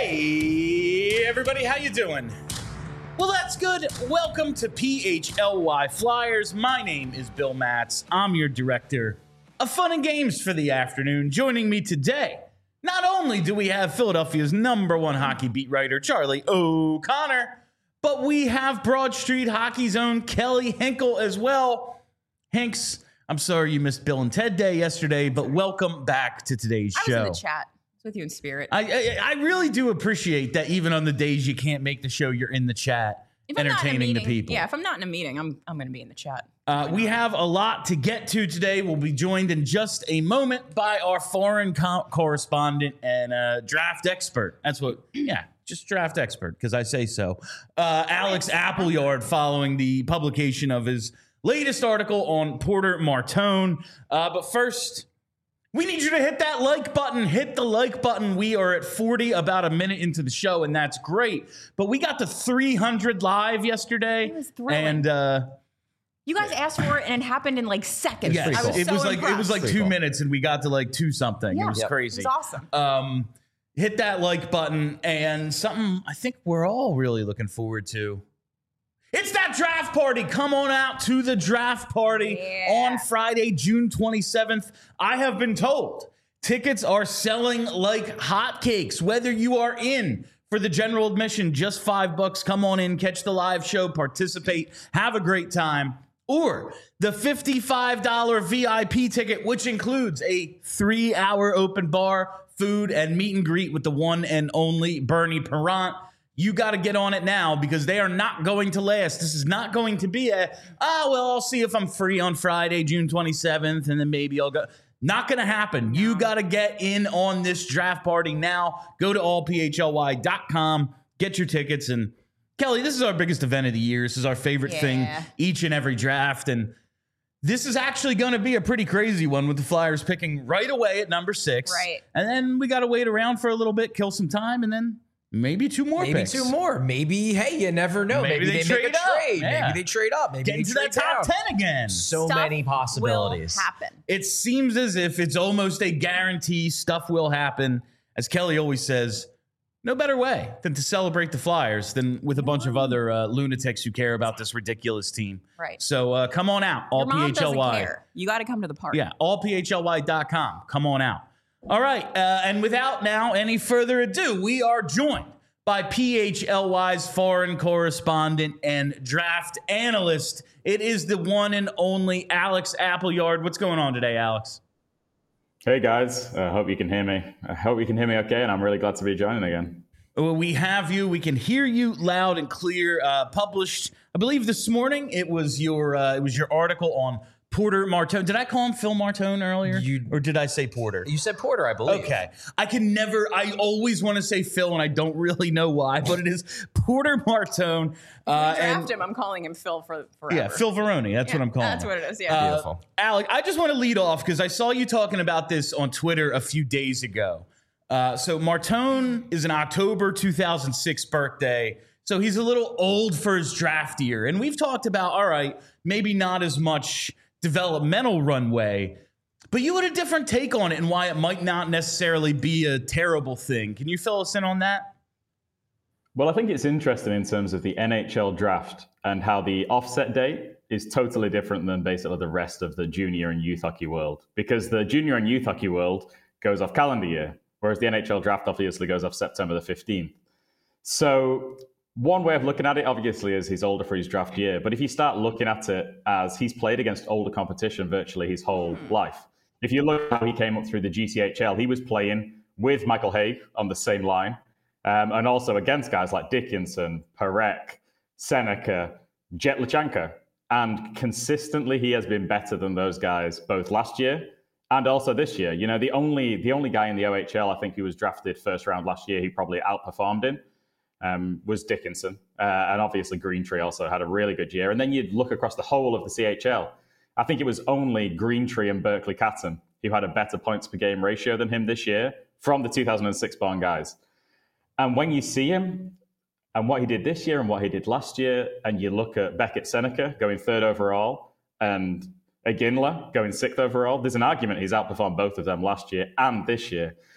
Hey, everybody, how you doing? Well, that's good. Welcome to PHLY Flyers. My name is Bill Matz. I'm your director of fun and games for the afternoon. Joining me today, not only do we have Philadelphia's #1 hockey beat writer, Charlie O'Connor, but we have Broad Street Hockey's own Kelly Hinkle as well. Hanks, I'm sorry you missed Bill and Ted Day yesterday, but welcome back to today's show. I was in the chat. With you in spirit. I really do appreciate that even on the days you can't make the show, you're in the chat entertaining the people. Yeah, if I'm not in a meeting, I'm going to be in the chat. We have a lot to get to today. We'll be joined in just a moment by our foreign correspondent and draft expert. That's what, just draft expert, because I say so. Alex Appleyard, following the publication of his latest article on Porter Martone. But first, we need you to hit that like button. Hit the like button. We are at 40, about a minute into the show, and that's great. But we got to 300 live yesterday. It was thrilling. And you guys asked for it, and it happened in like seconds. yes, I was it was impressed. like 2 minutes, and we got to like 2 something. Yeah. It was crazy. It was awesome. Hit that like button, and something I think we're all really looking forward to. It's that draft party. Come on out to the draft party on Friday, June 27th. I have been told tickets are selling like hotcakes. Whether you are in for the general admission, just $5, come on in, catch the live show, participate, have a great time. Or the $55 VIP ticket, which includes a 3-hour open bar, food, and meet and greet with the one and only Bernie Parent. You got to get on it now because they are not going to last. This is not going to be I'll see if I'm free on Friday, June 27th, and then maybe I'll go. Not going to happen. You got to get in on this draft party now. Go to allphly.com, get your tickets. And Kelly, this is our biggest event of the year. This is our favorite thing each and every draft. And this is actually going to be a pretty crazy one with the Flyers picking right away at number 6. Right. And then we got to wait around for a little bit, kill some time, and then maybe 2 more picks. Maybe 2 more. Maybe, hey, you never know. Maybe they trade make a trade. Yeah. Maybe they trade up. Maybe Get they into trade that top down. 10 again. So Stuff many possibilities. will happen. It seems as if it's almost a guarantee stuff will happen. As Kelly always says, no better way than to celebrate the Flyers than with a bunch of other lunatics who care about this ridiculous team. Right. So come on out, Your mom doesn't allphly. care. You got to come to the party. Yeah, allphly.com. Come on out. All right, and without now any further ado, we are joined by PHLY's foreign correspondent and draft analyst. It is the one and only Alex Appleyard. What's going on today, Alex? Hey, guys. I hope you can hear me. I hope you can hear me okay, and I'm really glad to be joining again. Well, we have you. We can hear you loud and clear. Published, I believe, this morning. It was your article on Porter Martone. Did I call him Phil Martone earlier? Or did I say Porter? You said Porter, I believe. Okay. I always want to say Phil, and I don't really know why, but it is Porter Martone. Draft him. I'm calling him Phil forever. Yeah, Phil Varone. That's what I'm calling That's him. what it is. Yeah. Beautiful. Alec, I just want to lead off because I saw you talking about this on Twitter a few days ago. So Martone is an October 2006 birthday. So he's a little old for his draft year. And we've talked about, all right, maybe not as much developmental runway, but you had a different take on it and why it might not necessarily be a terrible thing. Can you fill us in on that? Well, I think it's interesting in terms of the NHL draft and how the offset date is totally different than basically the rest of the junior and youth hockey world, because the junior and youth hockey world goes off calendar year, whereas the NHL draft obviously goes off September the 15th. So one way of looking at it, obviously, is he's older for his draft year. But if you start looking at it as he's played against older competition virtually his whole life. If you look at how he came up through the GCHL, he was playing with Michael Haig on the same line. And also against guys like Dickinson, Parek, Seneca, Jet Lachanka. And consistently, he has been better than those guys both last year and also this year. You know, the only guy in the OHL, I think, who was drafted first round last year, he probably outperformed him. Was Dickinson. And obviously Greentree also had a really good year. And then you'd look across the whole of the CHL. I think it was only Greentree and Berkeley Catton who had a better points per game ratio than him this year from the 2006 born guys. And when you see him and what he did this year and what he did last year, and you look at Beckett Seneca going 3rd overall and Iginla going 6th overall, there's an argument he's outperformed both of them last year and this year.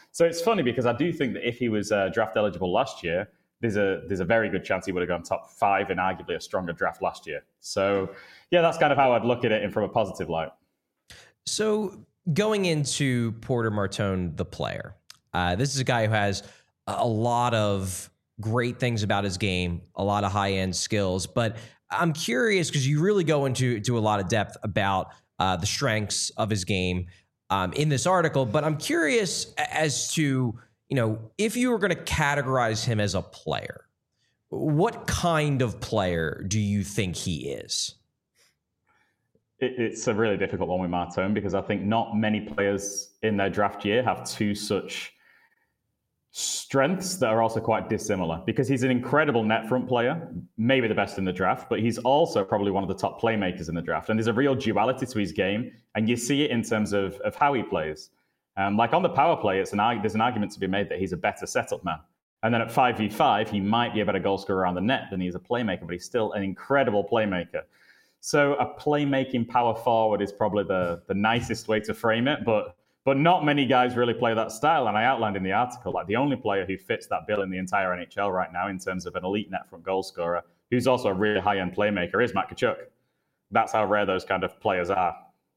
So it's funny because I do think that if he was draft eligible last year, there's a very good chance he would have gone top 5 in arguably a stronger draft last year. So yeah, that's kind of how I'd look at it from a positive light. So going into Porter Martone, the player, this is a guy who has a lot of great things about his game, a lot of high-end skills, but I'm curious because you really go into a lot of depth about the strengths of his game in this article, but I'm curious as to, if you were going to categorize him as a player, what kind of player do you think he is? It's a really difficult one with Martone because I think not many players in their draft year have two such strengths that are also quite dissimilar, because he's an incredible net front player, maybe the best in the draft, but he's also probably one of the top playmakers in the draft. And there's a real duality to his game, and you see it in terms of how he plays. Like on the power play, there's an argument to be made that he's a better setup man. And then at 5v5, he might be a better goal scorer around the net than he's a playmaker, but he's still an incredible playmaker. So a playmaking power forward is probably the nicest way to frame it, but not many guys really play that style. And I outlined in the article, like the only player who fits that bill in the entire NHL right now in terms of an elite net front goal scorer, who's also a really high-end playmaker, is Matt Tkachuk. That's how rare those kind of players are.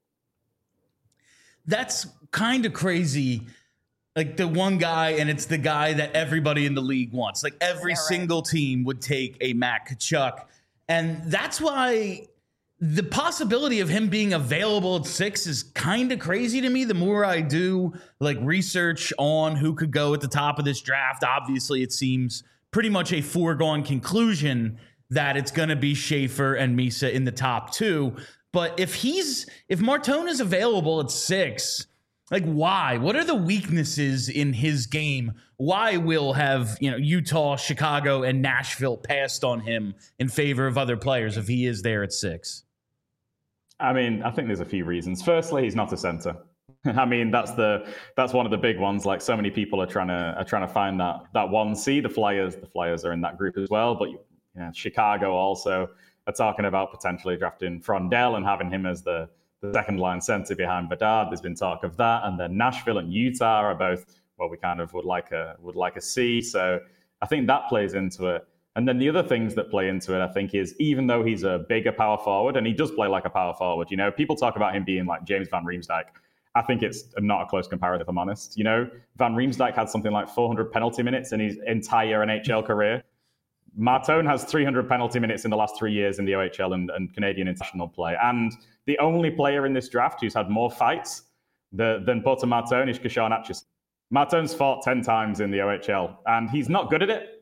That's kind of crazy. Like the one guy, and it's the guy that everybody in the league wants. Like every single team would take a Matt Tkachuk. And that's why the possibility of him being available at 6 is kind of crazy to me. The more I do like research on who could go at the top of this draft, obviously it seems pretty much a foregone conclusion that it's going to be Schaefer and Misa in the top 2. But if Martone is available at 6, like why? What are the weaknesses in his game? Why will have Utah, Chicago, and Nashville passed on him in favor of other players if he is there at 6? I mean, I think there's a few reasons. Firstly, he's not a center. I mean, that's one of the big ones. Like so many people are trying to find that 1C. The Flyers are in that group as well. But Chicago also are talking about potentially drafting Frondell and having him as the second line center behind Bedard. There's been talk of that, and then Nashville and Utah are both we kind of would like a C. So I think that plays into it. And then the other things that play into it, I think, is even though he's a bigger power forward, and he does play like a power forward, people talk about him being like James Van Riemsdyk. I think it's not a close comparison, if I'm honest. Van Riemsdyk had something like 400 penalty minutes in his entire NHL career. Martone has 300 penalty minutes in the last 3 years in the OHL and Canadian international play. And the only player in this draft who's had more fights than Porter Martone is Kshawn Atchison. Martone's fought 10 times in the OHL, and he's not good at it.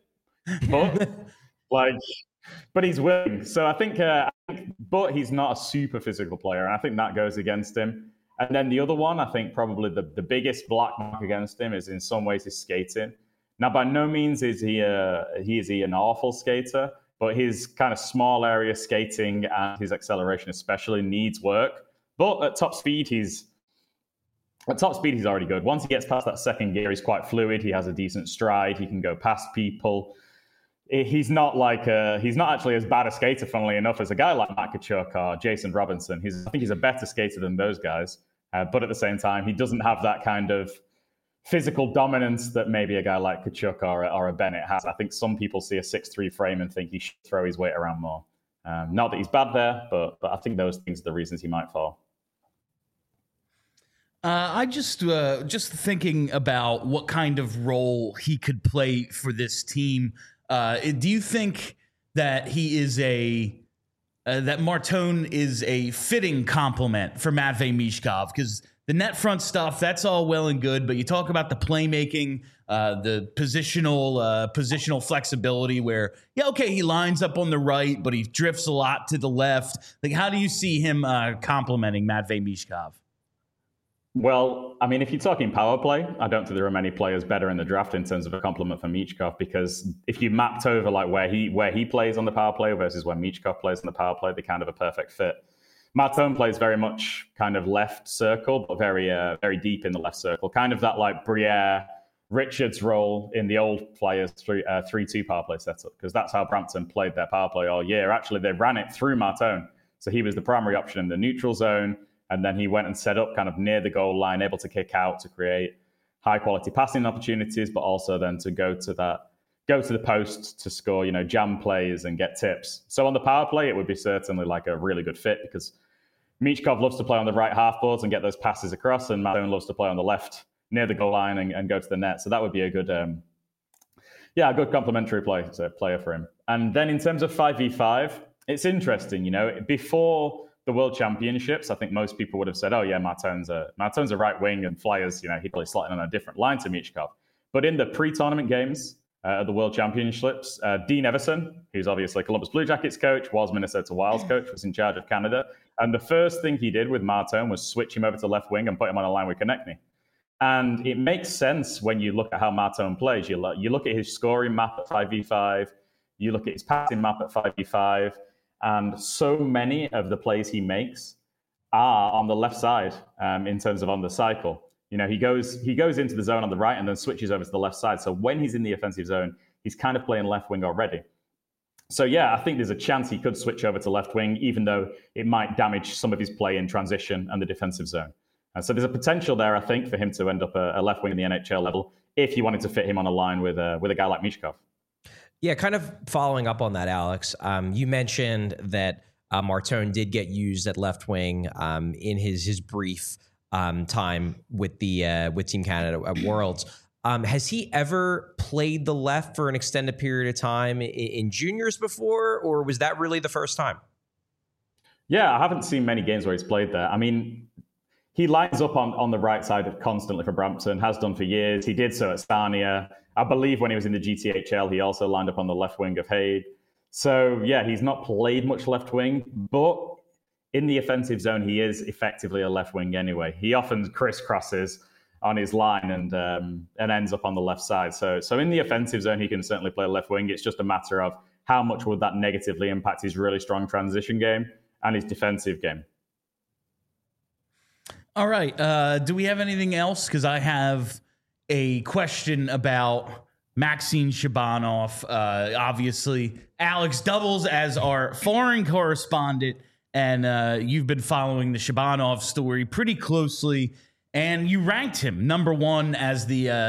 But he's willing. So I think, but he's not a super physical player, and I think that goes against him. And then the other one, I think probably the biggest black mark against him is in some ways his skating. Now, by no means is he an awful skater, but his kind of small area skating and his acceleration especially needs work. But at top speed, he's already good. Once he gets past that second gear, he's quite fluid. He has a decent stride. He can go past people. He's not actually as bad a skater, funnily enough, as a guy like Matt Tkachuk or Jason Robinson. I think he's a better skater than those guys. But at the same time, he doesn't have that kind of physical dominance that maybe a guy like Tkachuk or a Bennett has. I think some people see a 6'3" frame and think he should throw his weight around more. Not that he's bad there, but I think those things are the reasons he might fall. I just thinking about what kind of role he could play for this team. Do you think that he is that Martone is a fitting complement for Matvei Michkov? Because the net front stuff, that's all well and good, but you talk about the playmaking, the positional flexibility where, he lines up on the right, but he drifts a lot to the left. Like, how do you see him complementing Matvei Michkov? Well, I mean, if you're talking power play, I don't think there are many players better in the draft in terms of a compliment for Michkov, because if you mapped over like where he plays on the power play versus where Michkov plays on the power play, they're kind of a perfect fit. Martone plays very much kind of left circle, but very very deep in the left circle, kind of that like Briere Richards role in the old Flyers 3-2 power play setup, because that's how Brampton played their power play all year. Actually, they ran it through Martone, so he was the primary option in the neutral zone. And then he went and set up kind of near the goal line, able to kick out to create high quality passing opportunities, but also then to go to the post to score, jam plays and get tips. So on the power play, it would be certainly like a really good fit because Michkov loves to play on the right half boards and get those passes across, and Mattone loves to play on the left near the goal line and go to the net. So that would be a good, a good complementary player for him. And then in terms of 5v5, it's interesting, before the World Championships, I think most people would have said, oh yeah, Mattone's a right wing and Flyers, he'd probably slot in on a different line to Michkov. But in the pre-tournament games at the World Championships, Dean Everson, who's obviously Columbus Blue Jackets coach, was Minnesota Wild's coach, was in charge of Canada. And the first thing he did with Mattone was switch him over to left wing and put him on a line with Konechny. And it makes sense when you look at how Mattone plays. You look at his scoring map at 5v5, you look at his passing map at 5v5, and so many of the plays he makes are on the left side in terms of on the cycle. He goes into the zone on the right and then switches over to the left side. So when he's in the offensive zone, he's kind of playing left wing already. So yeah, I think there's a chance he could switch over to left wing, even though it might damage some of his play in transition and the defensive zone. And so there's a potential there, I think, for him to end up a left wing in the NHL level if you wanted to fit him on a line with a guy like Michkov. Yeah, kind of following up on that, Alex. You mentioned that Martone did get used at left wing in his brief time with Team Canada at Worlds. Has he ever played the left for an extended period of time in juniors before, or was that really the first time? Yeah, I haven't seen many games where he's played there. I mean, he lines up on the right side constantly for Brampton, has done for years. He did so at Sarnia. I believe when he was in the GTHL, he also lined up on the left wing of Hague. So, yeah, he's not played much left wing, but in the offensive zone, he is effectively a left wing anyway. He often crisscrosses on his line and ends up on the left side. So in the offensive zone, he can certainly play left wing. It's just a matter of how much would that negatively impact his really strong transition game and his defensive game. All right. Do we have anything else? Because I have a question about Maxim Shabanov. Obviously, Alex doubles as our foreign correspondent, and you've been following the Shabanov story pretty closely, and you ranked him number one as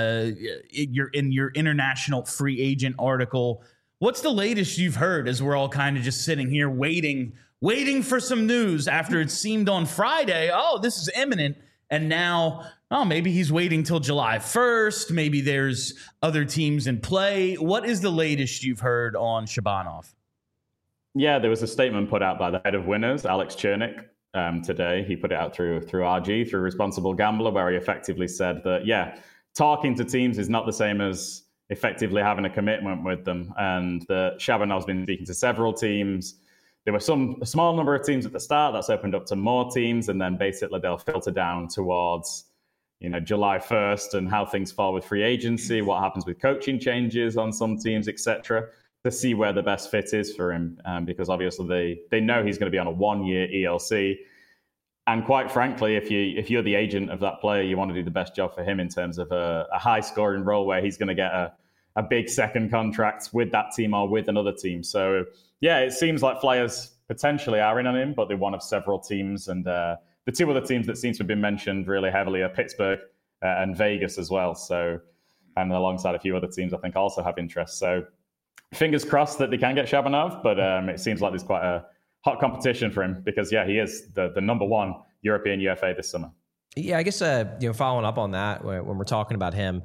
in your international free agent article. What's the latest you've heard as we're all kind of just sitting here waiting for some news after it seemed on Friday, oh, this is imminent, and now, oh, maybe he's waiting till July 1st. Maybe there's other teams in play. What is the latest you've heard on Shabanov? Yeah, there was a statement put out by the head of Winners, Alex Chernik, today. He put it out through RG, through Responsible Gambler, where he effectively said that, yeah, talking to teams is not the same as effectively having a commitment with them. And that Shabanov's been speaking to several teams. There were a small number of teams at the start. That's opened up to more teams. And then basically they'll filter down towards, July 1st and how things fall with free agency, what happens with coaching changes on some teams, etc., to see where the best fit is for him. Because obviously they know he's going to be on a 1-year ELC. And quite frankly, if you're the agent of that player, you want to do the best job for him in terms of a high-scoring role where he's going to get a big second contract with that team or with another team. So, yeah, it seems like Flyers potentially are in on him, but they're one of several teams. And the two other teams that seem to have been mentioned really heavily are Pittsburgh and Vegas as well. So, and alongside a few other teams, I think also have interest. So, fingers crossed that they can get Shabanov, but it seems like there's quite a hot competition for him because, yeah, he is the number one European UFA this summer. Yeah, I guess, following up on that, when we're talking about him,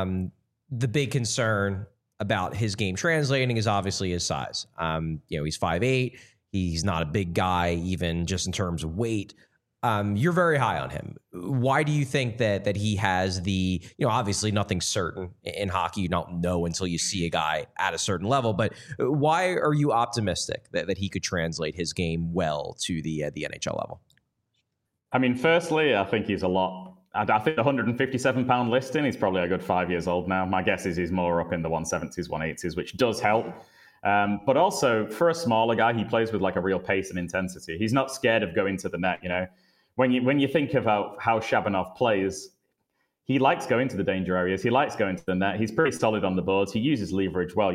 the big concern about his game translating is obviously his size. He's 5'8". He's not a big guy, even just in terms of weight. You're very high on him. Why do you think that he has the, obviously nothing's certain in hockey. You don't know until you see a guy at a certain level, but why are you optimistic that he could translate his game well to the NHL level? I mean, firstly, I think he's I think the 157-pound listing, he's probably a good 5 years old now. My guess is he's more up in the 170s, 180s, which does help. But also, for a smaller guy, he plays with like a real pace and intensity. He's not scared of going to the net, When you think about how Shabanov plays, he likes going to the danger areas. He likes going to the net. He's pretty solid on the boards. He uses leverage well.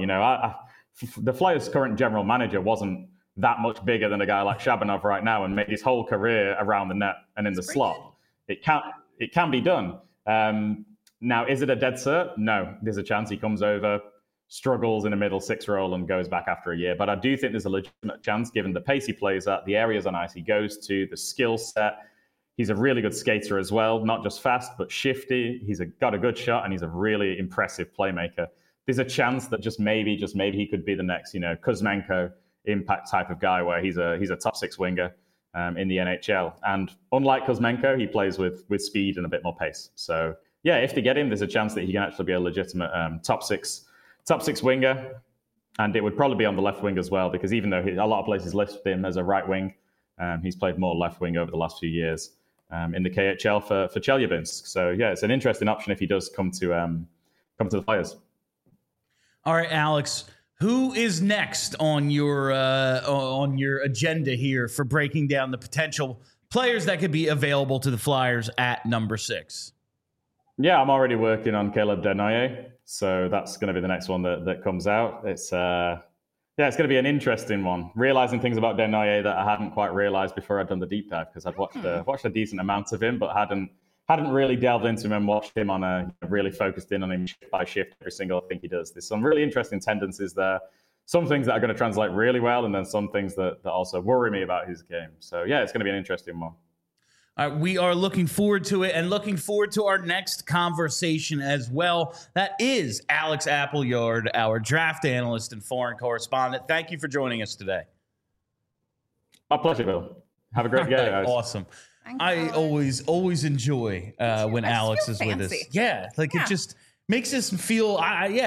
The Flyers' current general manager wasn't that much bigger than a guy like Shabanov right now and made his whole career around the net and in the slot. It can be done. Now, is it a dead cert? No. There's a chance he comes over, struggles in a middle 6 role and goes back after a year. But I do think there's a legitimate chance, given the pace he plays at, the areas on ice he goes to, the skill set. He's a really good skater as well, not just fast, but shifty. He's got a good shot, and he's a really impressive playmaker. There's a chance that just maybe he could be the next, Kuzmenko impact type of guy, where he's a top 6 winger in the NHL. And unlike Kuzmenko, he plays with speed and a bit more pace. So yeah, if they get him, there's a chance that he can actually be a legitimate top six winger. And it would probably be on the left wing as well, because even though a lot of places list him as a right wing, he's played more left wing over the last few years in the KHL for Chelyabinsk. So yeah, it's an interesting option if he does come to the Flyers. All right, Alex, who is next on your agenda here for breaking down the potential players that could be available to the Flyers at number 6? Yeah, I'm already working on Caleb Desnoyers, so that's going to be the next one that comes out. It's it's going to be an interesting one. Realizing things about Desnoyers that I hadn't quite realized before I'd done the deep dive, because I'd watched a decent amount of him, but hadn't really delved into him and watched him on really focused in on him shift by shift every single thing he does. There's some really interesting tendencies there. Some things that are going to translate really well, and then some things that also worry me about his game. So yeah, it's going to be an interesting one. We are looking forward to it, and looking forward to our next conversation as well. That is Alex Appleyard, our draft analyst and foreign correspondent. Thank you for joining us today. My pleasure, Bill. Have a great day, guys. Awesome. I always enjoy when Alex is with us. Yeah, it just makes us feel,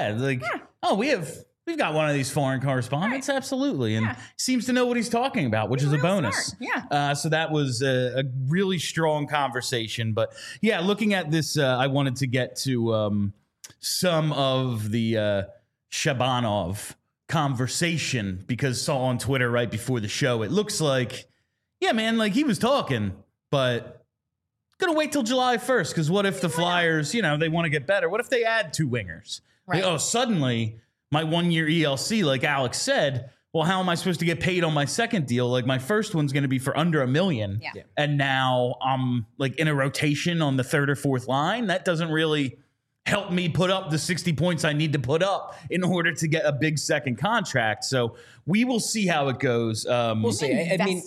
we've got one of these foreign correspondents, absolutely, and seems to know what he's talking about, which is a bonus. Smart. Yeah. So that was a really strong conversation. But yeah, looking at this, I wanted to get to some of the Shabanov conversation, because saw on Twitter right before the show, it looks like, yeah, man, he was talking, but gonna wait till July 1st, because what if the Flyers, they want to get better? What if they add 2 wingers? Right. Suddenly my 1-year ELC, like Alex said, well, how am I supposed to get paid on my second deal? My first one's going to be for under $1 million. Yeah. And now I'm in a rotation on the 3rd or 4th line. That doesn't really help me put up the 60 points I need to put up in order to get a big second contract. So we will see how it goes. We'll see. I mean,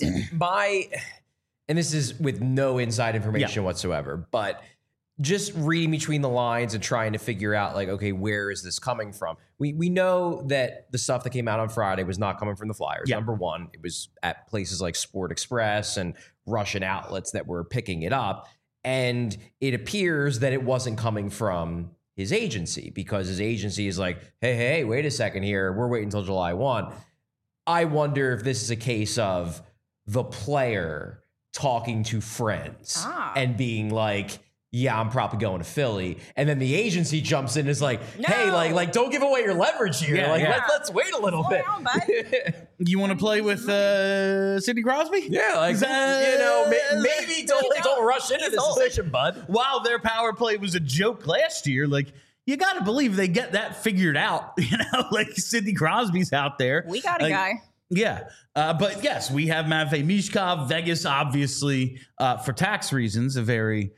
and this is with no inside information whatsoever, but just reading between the lines and trying to figure out, okay, where is this coming from? We know that the stuff that came out on Friday was not coming from the Flyers. Yeah. Number one, it was at places like Sport Express and Russian outlets that were picking it up. And it appears that it wasn't coming from his agency, because his agency is like, hey, wait a second here. We're waiting until July 1. I wonder if this is a case of the player talking to friends and being like, yeah, I'm probably going to Philly. And then the agency jumps in and is like, hey, don't give away your leverage here. Let's wait a little bit. On, bud. You want to play with Sidney Crosby? Yeah, maybe don't rush into this decision, bud. While their power play was a joke last year, you got to believe they get that figured out. Sidney Crosby's out there. We got a guy. Yeah. But yes, we have Matvei Michkov. Vegas, obviously, for tax reasons, a very...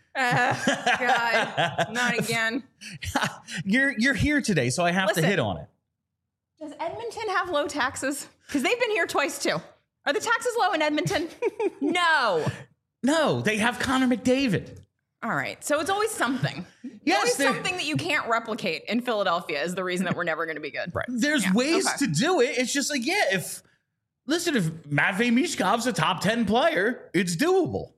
God, not again. You're here today, so I have to hit on it. Does Edmonton have low taxes? Because they've been here twice, too. Are the taxes low in Edmonton? No, they have Connor McDavid. All right, so it's always something. Yes, something that you can't replicate in Philadelphia is the reason that we're never going to be good. Right. There's ways to do it. It's just if Matvei Michkov's a top 10 player, it's doable.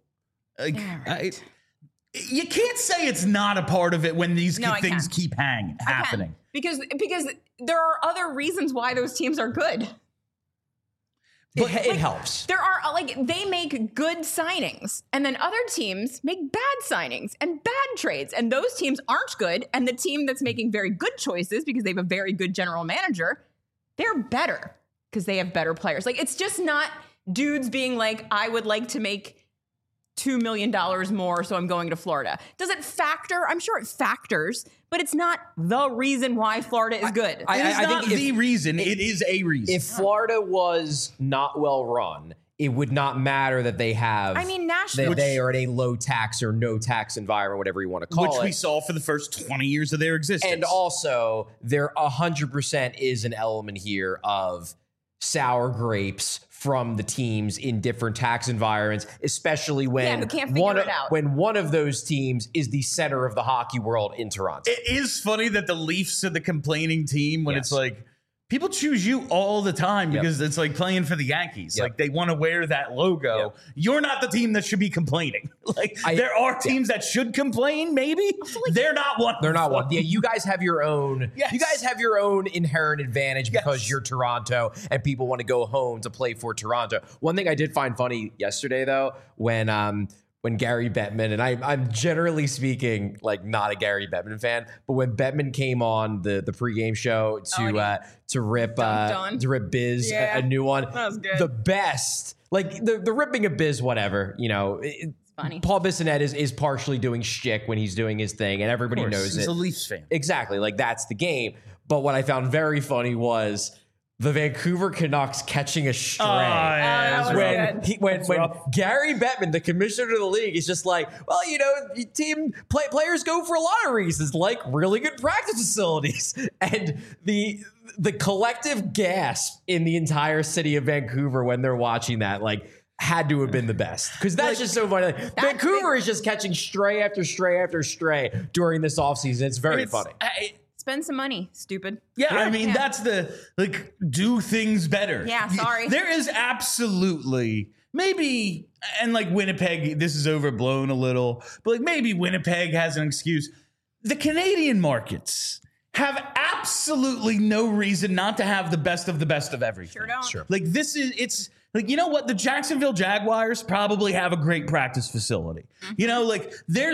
You can't say it's not a part of it when these things keep happening. Because there are other reasons why those teams are good. But it helps. There are they make good signings, and then other teams make bad signings and bad trades, and those teams aren't good. And the team that's making very good choices because they have a very good general manager, they're better because they have better players. It's just not dudes being like, I would like to make $2 million more, so I'm going to Florida. Does it factor? I'm sure it factors, but it's not the reason why Florida is good. I think the reason. It is a reason. If Florida was not well run, it would not matter that they have. I mean, Nashville. They are in a low tax or no tax environment, whatever you want to call it. Which we saw for the first 20 years of their existence. And also, there 100% is an element here of sour grapes from the teams in different tax environments, especially when who can't figure it out. when one of those teams is the center of the hockey world in Toronto. It is funny that the Leafs are the complaining team when Yes. it's like, people choose you all the time because it's like playing for the Yankees. Like they want to wear that logo. Yep. You're not the team that should be complaining. Like there are teams that should complain, maybe. They're not one. They're not one. Yeah, you guys have your own. Yes. You guys have your own inherent advantage because Yes. you're Toronto and people want to go home to play for Toronto. One thing I did find funny yesterday, though, when Gary Bettman, and I'm generally speaking like not a Gary Bettman fan, but when Bettman came on the pregame show to rip Biz a new one, that was good. The best, like the ripping of Biz, whatever, you know. Funny. Paul Bissonnette is partially doing shtick when he's doing his thing, and everybody knows He's it. a Leafs fan. Exactly, like that's the game. But what I found very funny was the Vancouver Canucks catching a stray. that was good. When rough. Gary Bettman, the commissioner of the league, is just like, well, you know, players go for a lot of reasons, like really good practice facilities, and the collective gasp in the entire city of Vancouver when they're watching that, like, had to have been the best, because that's just so funny. Like, Vancouver is just catching stray after stray after stray during this offseason. It's very funny. Spend some money, stupid. Yeah, I mean, that's the, like, do things better. Yeah, sorry. There is absolutely, maybe, and like Winnipeg, this is overblown a little, but like maybe Winnipeg has an excuse. The Canadian markets have absolutely no reason not to have the best of everything. Sure don't. Sure. Like it's like, you know what? The Jacksonville Jaguars probably have a great practice facility. You know, like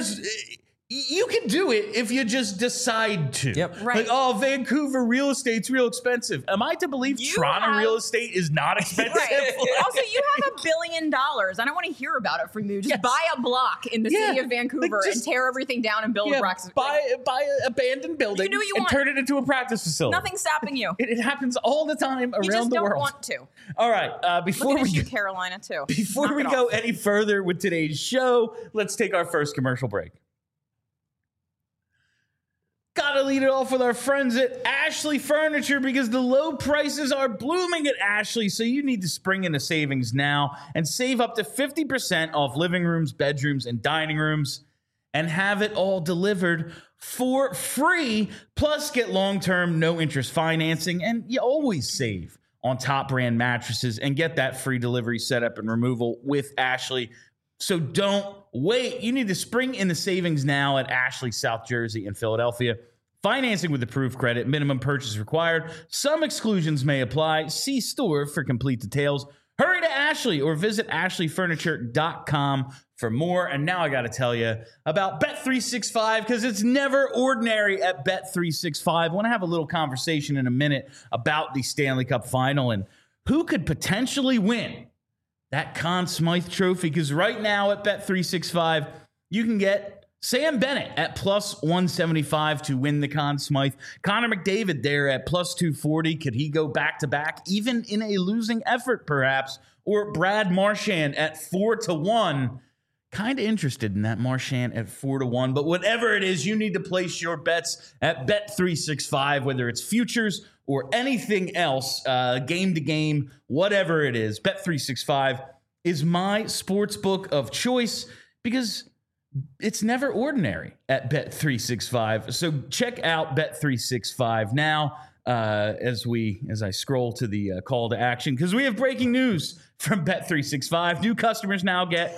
you can do it if you just decide to. Yep. Right. Like, oh, Vancouver real estate's real expensive. Am I to believe Toronto real estate is not expensive? Right. Like- Also, you have $1 billion. I don't want to hear about it from you. Just buy a block in the city of Vancouver and tear everything down and build a practice. buy an abandoned building do what you and want. turn it into a practice facility. Nothing's stopping you. It happens all the time around You just the don't world. want to. All right, before Look at we issue Carolina too. Before Knock we it go off. any further with today's show, let's take our first commercial break. Gotta lead it off with our friends at Ashley Furniture, because the low prices are blooming at Ashley, so you need to spring into savings now and save up to 50% off living rooms, bedrooms, and dining rooms, and have it all delivered for free. Plus, get long-term, no-interest financing, and you always save on top brand mattresses and get that free delivery setup and removal with Ashley. So don't wait. You need to spring in the savings now at Ashley, South Jersey, and Philadelphia. Financing with approved credit, minimum purchase required. Some exclusions may apply. See store for complete details. Hurry to Ashley or visit ashleyfurniture.com for more. And now I got to tell you about Bet365, because it's never ordinary at Bet365. I want to have a little conversation in a minute about the Stanley Cup Final and who could potentially win that Conn Smythe Trophy, because right now at Bet365, you can get Sam Bennett at plus 175 to win the Conn Smythe. Connor McDavid there at plus 240. Could he go back-to-back, even in a losing effort, perhaps? Or Brad Marchand at 4-1. Kind of interested in that Marchand at 4-1. But whatever it is, you need to place your bets at Bet365, whether it's futures or anything else, game to game, whatever it is. Bet365 is my sports book of choice, because it's never ordinary at Bet365. So check out Bet365 now as I scroll to the call to action, because we have breaking news from Bet365. New customers now get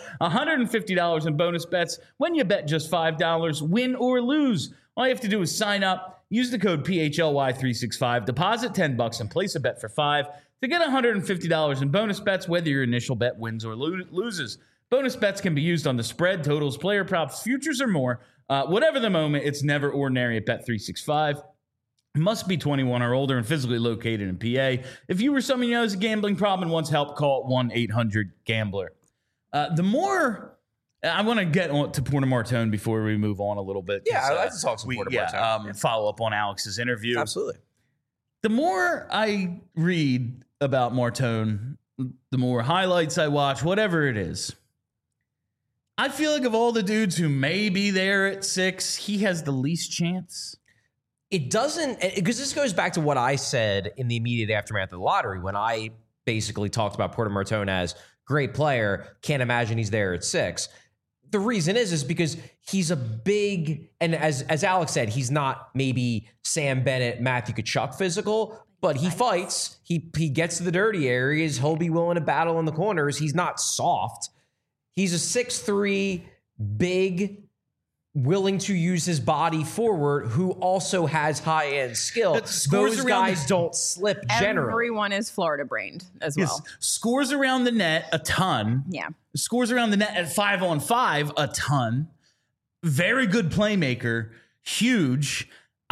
$150 in bonus bets when you bet just $5, win or lose. All you have to do is sign up, use the code PHLY365, deposit $10 and place a bet for $5 to get $150 in bonus bets, whether your initial bet wins or loses. Bonus bets can be used on the spread, totals, player props, futures, or more. Whatever the moment, it's never ordinary at Bet365. Must be 21 or older and physically located in PA. If you or someone you know has a gambling problem and wants help, call 1-800-GAMBLER. The more I want to get on to Porter Martone before we move on a little bit. Yeah, I'd like to talk some Porter Martone. Follow up on Alex's interview. Absolutely. The more I read about Martone, the more highlights I watch, whatever it is, I feel like of all the dudes who may be there at 6, he has the least chance. It doesn't, because this goes back to what I said in the immediate aftermath of the lottery when I basically talked about Porter Martone as great player. Can't imagine he's there at 6. The reason is because he's a big, and as Alex said, he's not maybe Sam Bennett, Matthew Tkachuk physical, but he fights. He gets to the dirty areas. He'll be willing to battle in the corners. He's not soft. He's a 6'3", big, willing to use his body forward, who also has high-end skill. Those guys don't slip generally. Everyone is Florida brained as well. Yes. Scores around the net a ton. Yeah. Scores around the net at 5-on-5 a ton. Very good playmaker. Huge.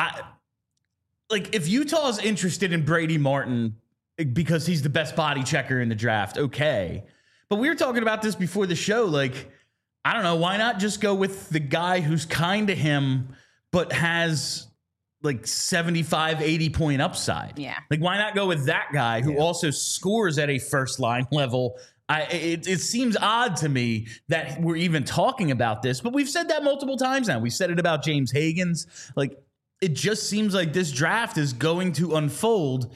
If Utah's interested in Brady Martin because he's the best body checker in the draft, okay. But we were talking about this before the show. I don't know. Why not just go with the guy who's kind of him, but has 75, 80 point upside? Yeah. Why not go with that guy who also scores at a first line level? It seems odd to me that we're even talking about this, but we've said that multiple times now. We said it about James Higgins. It just seems like this draft is going to unfold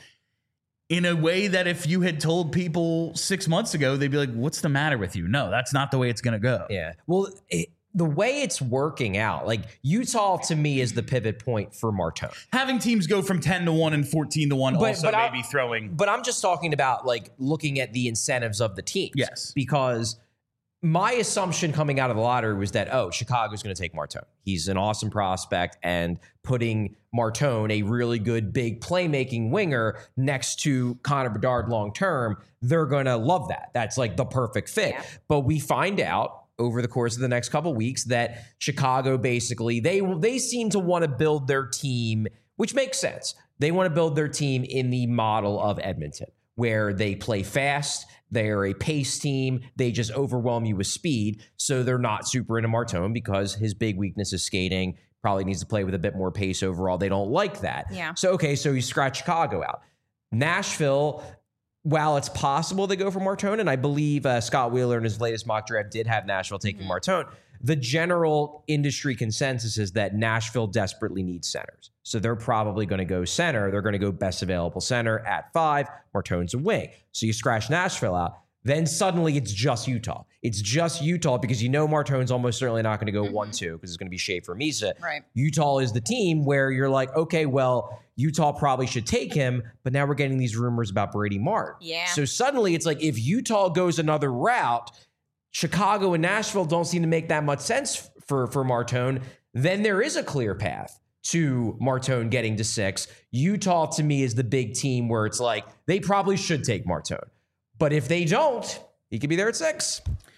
in a way that if you had told people 6 months ago, they'd be like, what's the matter with you? No, that's not the way it's going to go. Yeah. Well, the way it's working out, Utah to me is the pivot point for Martone. Having teams go from 10-1 and 14-1 also maybe throwing. But I'm just talking about looking at the incentives of the teams. Yes. Because my assumption coming out of the lottery was that, Chicago's going to take Martone. He's an awesome prospect, and putting Martone, a really good big playmaking winger, next to Connor Bedard long-term, they're going to love that. That's the perfect fit. Yeah. But we find out over the course of the next couple of weeks that Chicago basically, they seem to want to build their team, which makes sense. They want to build their team in the model of Edmonton, where they play fast. They're a pace team. They just overwhelm you with speed. So they're not super into Martone because his big weakness is skating. Probably needs to play with a bit more pace overall. They don't like that. Yeah. So you scratch Chicago out. Nashville, while it's possible they go for Martone, and I believe Scott Wheeler in his latest mock draft did have Nashville taking Martone, the general industry consensus is that Nashville desperately needs centers. So they're probably going to go center. They're going to go best available center at 5. Martone's a wing. So you scratch Nashville out. Then suddenly it's just Utah. It's just Utah because Martone's almost certainly not going to go 1-2 because it's going to be Schaefer Misa. Right. Utah is the team where you're like, okay, well, Utah probably should take him, but now we're getting these rumors about Brady Martin. Yeah. So suddenly it's if Utah goes another route, Chicago and Nashville don't seem to make that much sense for Martone, then there is a clear path to Martone getting to 6. Utah, to me, is the big team where it's they probably should take Martone. But if they don't, he could be there at 6.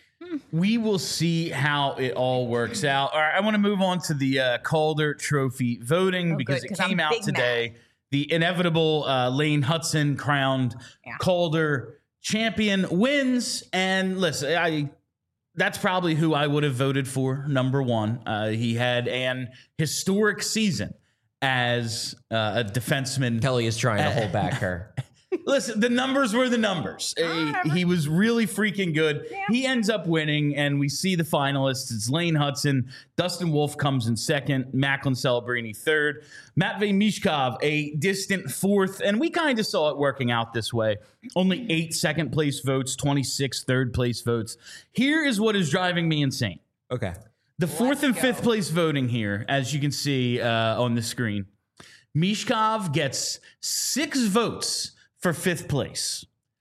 We will see how it all works out. All right, I want to move on to the Calder Trophy voting because it came out today. Mad. The inevitable Lane Hutson crowned Calder champion wins. And listen, that's probably who I would have voted for, number 1. He had an historic season as a defenseman. Kelly is trying to hold back her. Listen, the numbers were the numbers. He was really freaking good. Yeah. He ends up winning, and we see the finalists. It's Lane Hutson. Dustin Wolf comes in second. Macklin Celebrini third. Matvei Michkov, a distant fourth. And we kind of saw it working out this way. Only 8 second-place votes, 26 third-place votes. Here is what is driving me insane. Okay. The fourth and fifth-place voting here, as you can see on the screen. Michkov gets 6 votes for 5th place.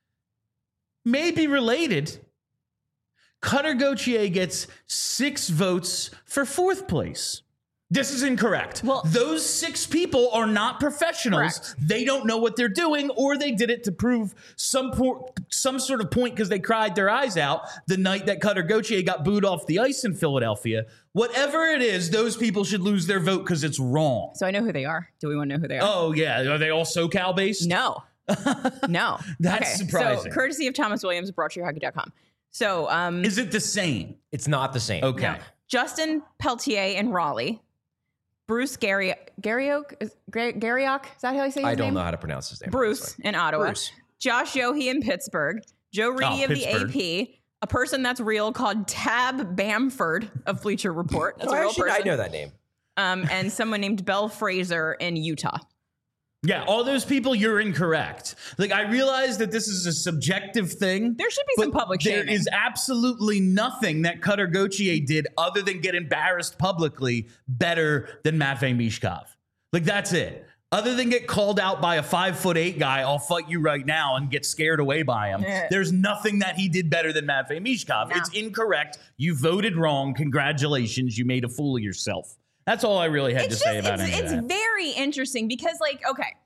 Maybe related. Cutter Gauthier gets 6 votes for 4th place. This is incorrect. Well, those 6 people are not professionals. Correct. They don't know what they're doing, or they did it to prove some sort of point because they cried their eyes out the night that Cutter Gauthier got booed off the ice in Philadelphia. Whatever it is, those people should lose their vote because it's wrong. So I know who they are. Do we want to know who they are? Oh, yeah. Are they all SoCal based? No. No. That's surprising. So, courtesy of Thomas Williams, brought to you hockey.com. So, is it the same? It's not the same. Okay. No. Justin Peltier in Raleigh. Bruce Garriock? Is that how you say his name? I don't know how to pronounce his name. Bruce in Ottawa. Bruce. Josh Yohe in Pittsburgh. Joe Reedy of Pittsburgh. the AP, a person that's real called Tab Bamford of Bleacher Report. That's a real Actually, person. I know that name. And someone named Belle Fraser in Utah. Yeah, all those people, you're incorrect. Like, I realize that this is a subjective thing. There should be some public shaming. There is absolutely nothing that Cutter Gauthier did other than get embarrassed publicly better than Matvei Mishkov. Like, that's it. Other than get called out by a 5'8" guy, I'll fight you right now, and get scared away by him. There's nothing that he did better than Matvei Mishkov. No. It's incorrect. You voted wrong. Congratulations. You made a fool of yourself. That's all I really had to say about any of It's that. very interesting because, like, okay,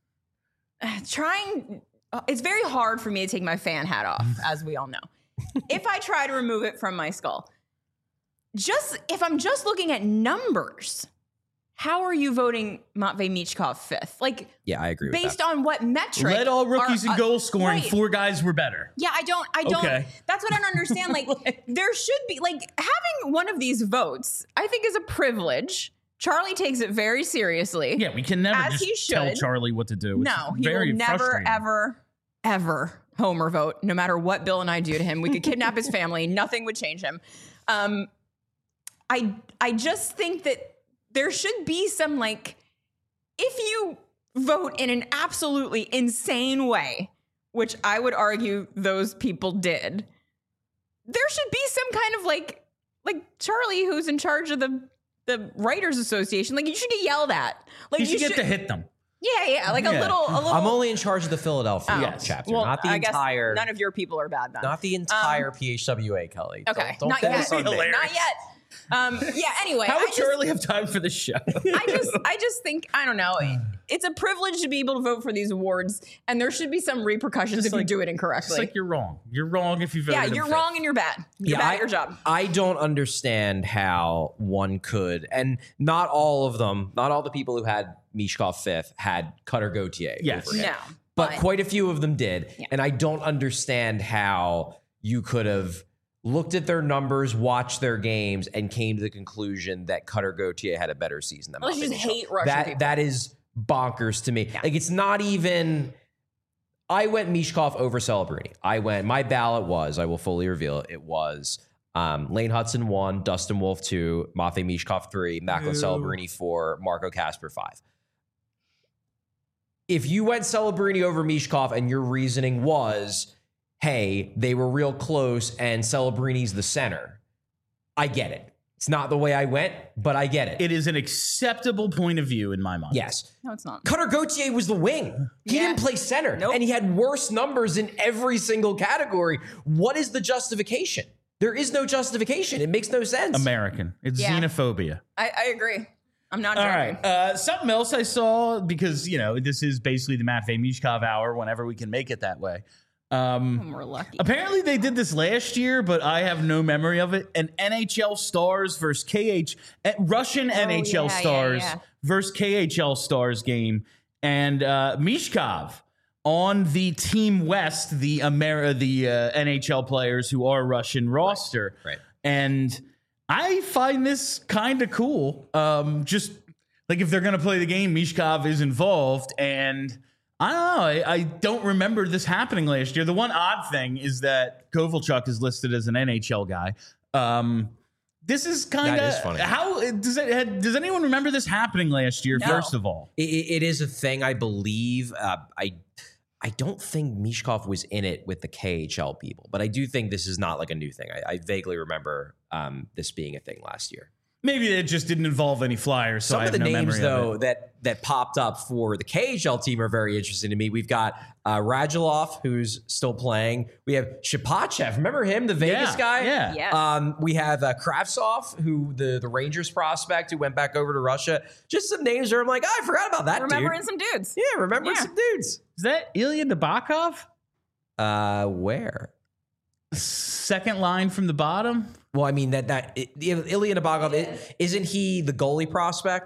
it's very hard for me to take my fan hat off, as we all know. If I try to remove it from my skull, if I'm just looking at numbers, how are you voting Matvei Michkov fifth? Like, Yeah, I agree with based that. on what metric? Let all rookies in goal scoring, right. 4 guys were better. Yeah, I don't, Okay. that's what I don't understand. Like, there should be, like, having one of these votes, I think is a privilege. Charlie takes it very seriously. Yeah, we can never As he just tell should. Charlie what to do. It's No, he very will never, frustrating. ever Homer vote, no matter what Bill and I do to him. We could kidnap his family. Nothing would change him. I just think that there should be some, like, if you vote in an absolutely insane way, which I would argue those people did, there should be some kind of like Charlie, who's in charge of the Writers Association, like, you should get yelled at. Like, You should get to hit them. yeah, like Yeah. a little. I'm only in charge of the Philadelphia Yes. chapter, Well, not the I guess entire. none of your people are bad then. Not the entire PHWA, Kelly. Okay, Don't not get yet. us on Hilarious. Not yet. Yeah. Anyway, How would I just, Charlie have time for this show? I just think, I don't know. It's a privilege to be able to vote for these awards, and there should be some repercussions if you do it It's incorrectly. like you're wrong. You're wrong if you voted Yeah, him you're fifth. wrong and you're bad. You're bad at your job. I don't understand how one could, and not all of them, not all the people who had Mishkov fifth had Cutter Gauthier. Yes. over him. No. But quite a few of them did. Yeah. And I don't understand how you could have looked at their numbers, watched their games, and came to the conclusion that Cutter Gauthier had a better season than Unless you Matvei just Michkov. hate Russian people. That is bonkers to me. Like, it's not even. I went Mishkov over Celebrini. My ballot was, I will fully reveal it was Lane Hudson 1, Dustin Wolf 2, Matvei Mishkov 3, Macklin Celebrini 4, Marco Casper 5. If you went Celebrini over Mishkov and your reasoning was, hey, they were real close and Celebrini's the center, I get it. It's not the way I went, but I get it. It is an acceptable point of view in my mind. Yes. No, it's not. Cutter Gauthier was the wing. He Yeah. didn't play center. Nope. And he had worse numbers in every single category. What is the justification? There is no justification. It makes no sense. American. It's Yeah. xenophobia. I agree. I'm not All joking. right. Something else I saw, because, this is basically the Matvei Mishkov hour whenever we can make it that way. We're lucky. Apparently they did this last year, but I have no memory of it. An NHL Stars versus Russian NHL yeah, Stars yeah. versus KHL Stars game. And Mishkov on the Team West, the NHL players who are Russian roster. Right. And I find this kind of cool. Just like, if they're going to play the game, Mishkov is involved. And I don't know. I don't remember this happening last year. The one odd thing is that Kovalchuk is listed as an NHL guy. This is kind That is of funny. How does anyone remember this happening last year? No. First of all, It is a thing, I believe. I don't think Mishkov was in it with the KHL people, but I do think this is not like a new thing. I vaguely remember this being a thing last year. maybe it just didn't involve any Flyers. So Some I of have the no names, memory of though, it. that popped up for the KHL team are very interesting to me. We've got Radulov, who's still playing. We have Shipachev. Remember him, the Vegas Yeah, guy? yeah. Yes. We have Kravtsov, who the Rangers prospect who went back over to Russia. Just some names where I'm like, oh, I forgot about that Remembering dude. some dudes. Yeah, remembering Yeah. some dudes. Is that Ilya Nabokov? Where? Second line from the bottom. Well, I mean, Ilya Nabokov, isn't he the goalie prospect?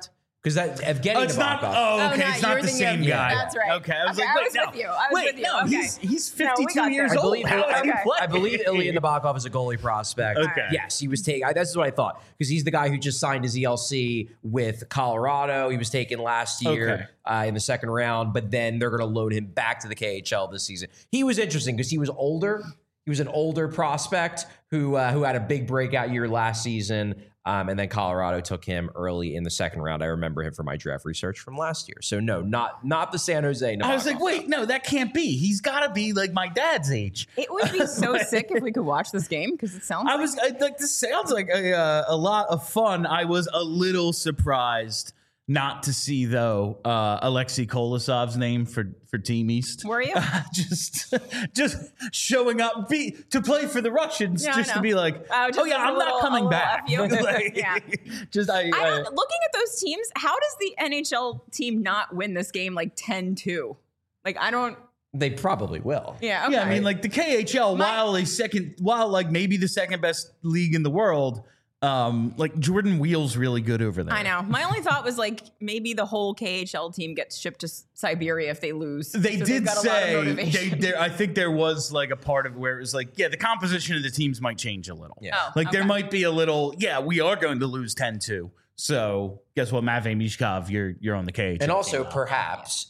Because that Evgeny it's not. Nabokov. Oh, okay. no, it's you not were the thinking same of- guy. That's right. Okay, I was Okay, like, I wait, was no, with you. I was wait, with you. no, Okay. he's No, we 52 got years there. old. believe- How does he okay. play? I believe Ilya Nabokov is a goalie prospect. Okay. Yes, he was taken. This is what I thought because he's the guy who just signed his ELC with Colorado. He was taken last year in the second round, but then they're going to load him back to the KHL this season. He was interesting because he was older. He was an older prospect who had a big breakout year last season. And then Colorado took him early in the second round. I remember him from my draft research from last year. So no, not the San Jose Nabokov. I was like, wait, no, that can't be. He's got to be like my dad's age. It would be so sick if we could watch this game because it sounds. This sounds like a lot of fun. I was a little surprised not to see though Alexei Kolosov's name for Team East. Were you? just showing up to play for the Russians, Yeah, I just to know. be like, Just oh yeah, a I'm little- not coming a little back. F you. Like, Yeah. Just I don't. Looking at those teams, how does the NHL team not win this game like 10-2? Like I don't. They probably will. Yeah. Okay. Yeah, I mean, like the KHL, while like maybe the second best league in the world, like Jordan Wheel's really good over there. I know. My only thought was like maybe the whole KHL team gets shipped to Siberia if they lose. They So they've did got a lot of say motivation. I think there was like a part of it where it was like, yeah, the composition of the teams might change a little. Yeah. Oh, Like there okay. might be a little, yeah, we are going to lose 10-2. So guess what, Matvei Mishkov, you're on the KHL. And also, team. perhaps,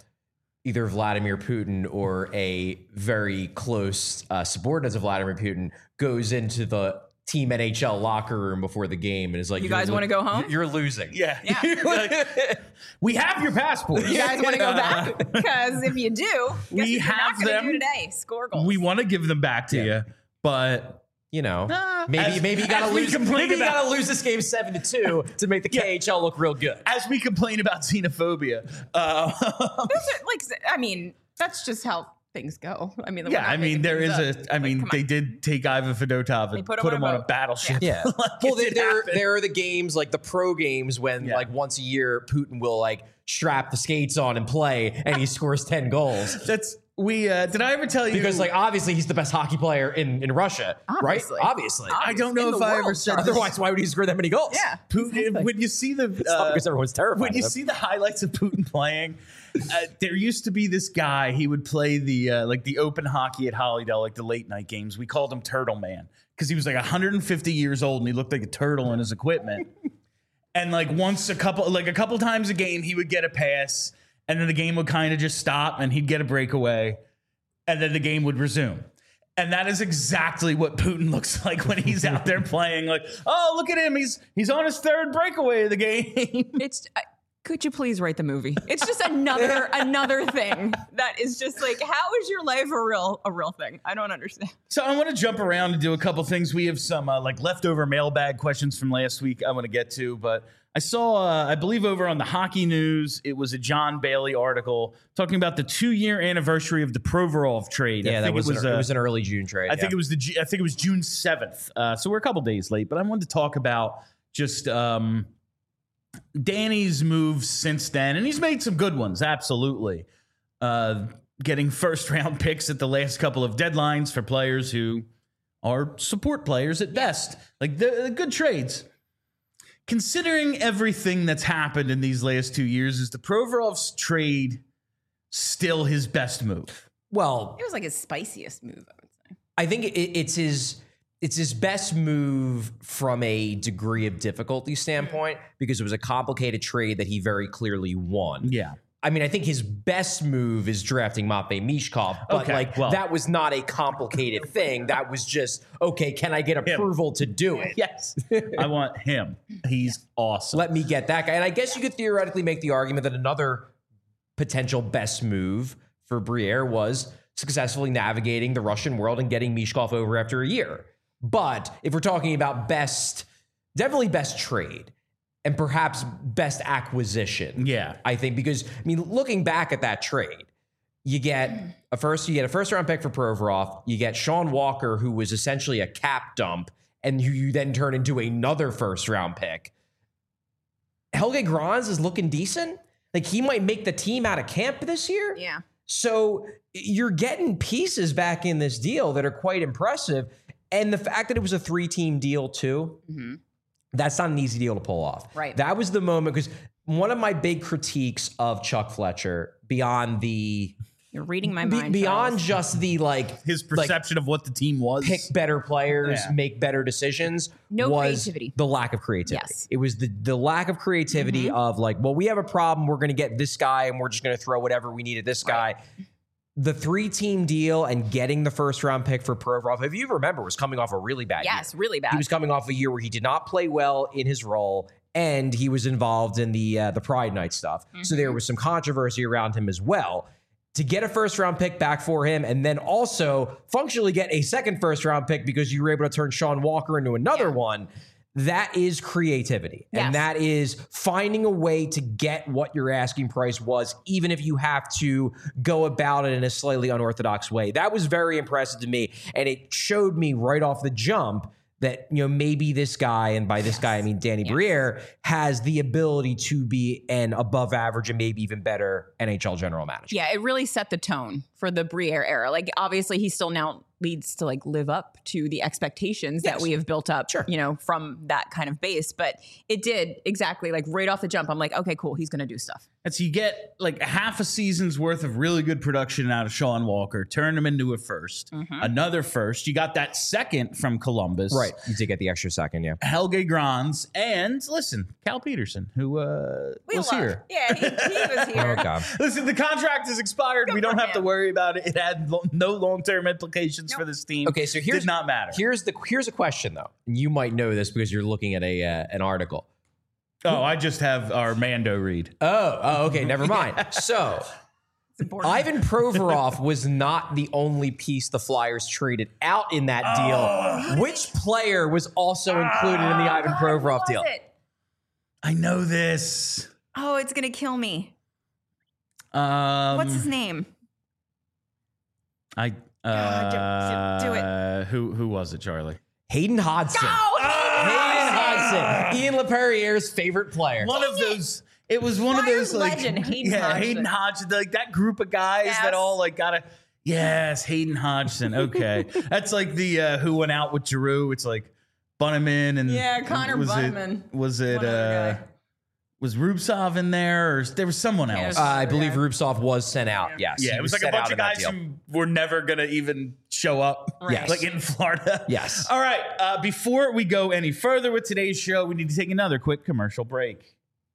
either Vladimir Putin or a very close subordinate of Vladimir Putin goes into the Team NHL locker room before the game and is like, You guys wanna go home? You're losing. yeah. Yeah. Like, we have your passports. You guys want to go back? Because if you do, guess what We you're have not gonna them. do today. Score goals. We want to give them back to you, but Maybe you gotta as we lose. complain Maybe you about- gotta lose this game 7-2 to make the KHL look real good. as we complain about xenophobia, I mean, that's just how things go. I mean, we're yeah, not I mean, making there things is up. I mean, come they on. did take Ivan Fedotov and put put him him on on a a boat. battleship. Yeah. Like, Well, it did happen. there are the games like the pro games when Yeah. like once a year Putin will like strap the skates on and play and he scores 10 goals. That's did I ever tell you? Because like obviously he's the best hockey player in Russia, Obviously. right? Obviously. I don't know in if the I ever world, said Charles. this. Otherwise, why would he score that many goals? Yeah. Putin, when you see the It's not because everyone's terrified. when you of him. see the highlights of Putin playing, there used to be this guy. He would play the like the open hockey at Hollydale, like the late night games. We called him Turtle Man because he was like 150 years old and he looked like a turtle in his equipment. And like a couple times a game, he would get a pass, and then the game would kind of just stop, and he'd get a breakaway, and then the game would resume. And that is exactly what Putin looks like when he's out there playing. Like, oh, look at him. He's on his third breakaway of the game. It's. Could you please write the movie? It's just another thing that is just like, how is your life a real thing? I don't understand. So I want to jump around and do a couple things. We have some like leftover mailbag questions from last week I want to get to, but I saw, I believe over on the Hockey News, it was a John Bailey article talking about the 2-year anniversary of the Provorov trade. Yeah, I think it was an early June trade. I think it was June 7th. So we're a couple days late, but I wanted to talk about just Danny's moves since then, and he's made some good ones, absolutely. Getting first-round picks at the last couple of deadlines for players who are support players at best. Like, the good trades. Considering everything that's happened in these last 2 years, is the Provorov's trade still his best move? Well, It was like his spiciest move, I would say. I think it's his best move from a degree of difficulty standpoint because it was a complicated trade that he very clearly won. Yeah. I mean, I think his best move is drafting Matvei Mishkov, but Okay, well. that was not a complicated thing. That was just, okay, can I get approval to do it? Yes. I want him. He's awesome. Let me get that guy. And I guess you could theoretically make the argument that another potential best move for Briere was successfully navigating the Russian world and getting Mishkov over after a year. But if we're talking about definitely best trade and perhaps best acquisition. Yeah. I think because, I mean, looking back at that trade, you get a first round pick for Provorov. You get Sean Walker, who was essentially a cap dump, and who you then turn into another first round pick. Helge Grans is looking decent. Like, he might make the team out of camp this year. Yeah. So you're getting pieces back in this deal that are quite impressive. And the fact that it was a 3-team deal too, that's not an easy deal to pull off. Right. That was the moment because one of my big critiques of Chuck Fletcher beyond the You're reading my mind. beyond Charles. just the His perception of what the team was. pick better players, Yeah. make better decisions. No was creativity. The lack of creativity. Yes. It was the lack of creativity of like, well, we have a problem. We're going to get this guy and we're just going to throw whatever we need at this guy. The 3-team deal and getting the first round pick for Provorov, if you remember, was coming off a really bad year. Yes, really bad. He was coming off a year where he did not play well in his role, and he was involved in the Pride Night stuff. So there was some controversy around him as well. To get a first round pick back for him, and then also functionally get a second first round pick because you were able to turn Sean Walker into another one. That is creativity. Yes. And that is finding a way to get what your asking price was, even if you have to go about it in a slightly unorthodox way. That was very impressive to me. And it showed me right off the jump that, you know, maybe this guy, and by this guy I mean Danny Briere, has the ability to be an above average and maybe even better NHL general manager. Yeah, it really set the tone for the Briere era. Like, obviously, he still now needs to like live up to the expectations that we have built up, you know, from that kind of base. But it did exactly like right off the jump. I'm like, okay, cool. He's going to do stuff. And so you get like half a season's worth of really good production out of Sean Walker, turn him into a first, another first. You got that second from Columbus. Right. You did get the extra second, yeah. Helge Grans, and listen, Cal Peterson, who was here. Yeah, he was here. Oh, God. Listen, the contract is expired. We don't for have to him. worry about it. It had no long-term implications for this team. Okay, so here's did not matter. Here's a question though. And you might know this because you're looking at an article. Oh, I just have our Mando read. Oh, okay, never mind. So Ivan Provorov was not the only piece the Flyers traded out in that deal. Which player was also included in the Ivan Provorov deal? I know this. Oh, it's going to kill me. What's What's his name? I do it. Who was it, Charlie? Hayden Hodgson. Hayden Hodgson, Ian LaPerriere's favorite player. One of those. It was one of Flyers those like legend, Hayden Hodgson. Hayden Hodgson, like that group of guys Yes. that all like gotta. Yes, Hayden Hodgson. Okay, that's like the who went out with Giroux. It's like Bunneman and Connor Bunneman. Was it? One other guy. Was Rubtsov in there, or there was someone else? I believe Rubtsov was sent out. Yes. Yeah, he it was like a sent bunch out of in that guys deal. who were never going to even show up, Yes. like in Florida. Yes. All right, before we go any further with today's show, we need to take another quick commercial break.